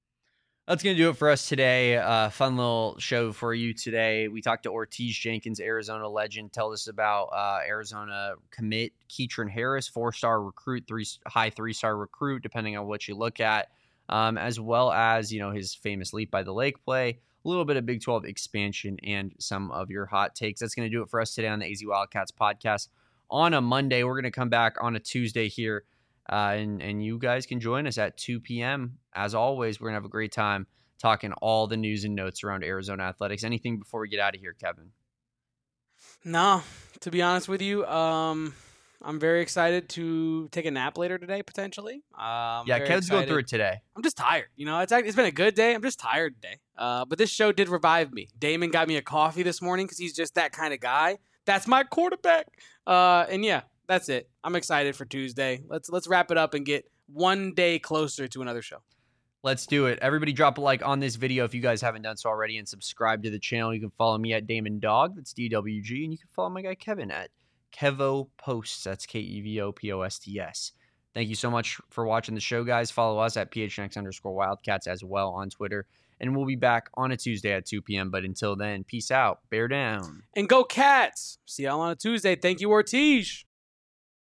Speaker 2: That's going to do it for us today. Uh, fun little show for you today. We talked to Ortiz Jenkins, Arizona legend. Tell us about uh, Arizona commit Keatron Harris, four-star recruit, three high three-star recruit, depending on what you look at, um, as well as, you know, his famous Leap by the Lake play, a little bit of Big twelve expansion, and some of your hot takes. That's going to do it for us today on the A Z Wildcats podcast. On a Monday, we're going to come back on a Tuesday here. Uh, and, and you guys can join us at two p.m. As always, we're going to have a great time talking all the news and notes around Arizona athletics. Anything before we get out of here, Kevin?
Speaker 1: No, to be honest with you, um, I'm very excited to take a nap later today, potentially. Um,
Speaker 2: yeah, Kevin's going through it today.
Speaker 1: I'm just tired. You know, it's it's been a good day. I'm just tired today. Uh, but this show did revive me. Damon got me a coffee this morning because he's just that kind of guy. That's my quarterback. Uh, and yeah. That's it. I'm excited for Tuesday. Let's let's wrap it up and get one day closer to another show.
Speaker 2: Let's do it. Everybody drop a like on this video if you guys haven't done so already, and subscribe to the channel. You can follow me at Damon Dog. That's D W G. And you can follow my guy Kevin at Kevo Posts. That's K E V O P O S T S. Thank you so much for watching the show, guys. Follow us at P H N X underscore Wildcats as well on Twitter. And we'll be back on a Tuesday at two p.m. But until then, peace out. Bear down.
Speaker 1: And go Cats. See y'all on a Tuesday. Thank you, Ortiz.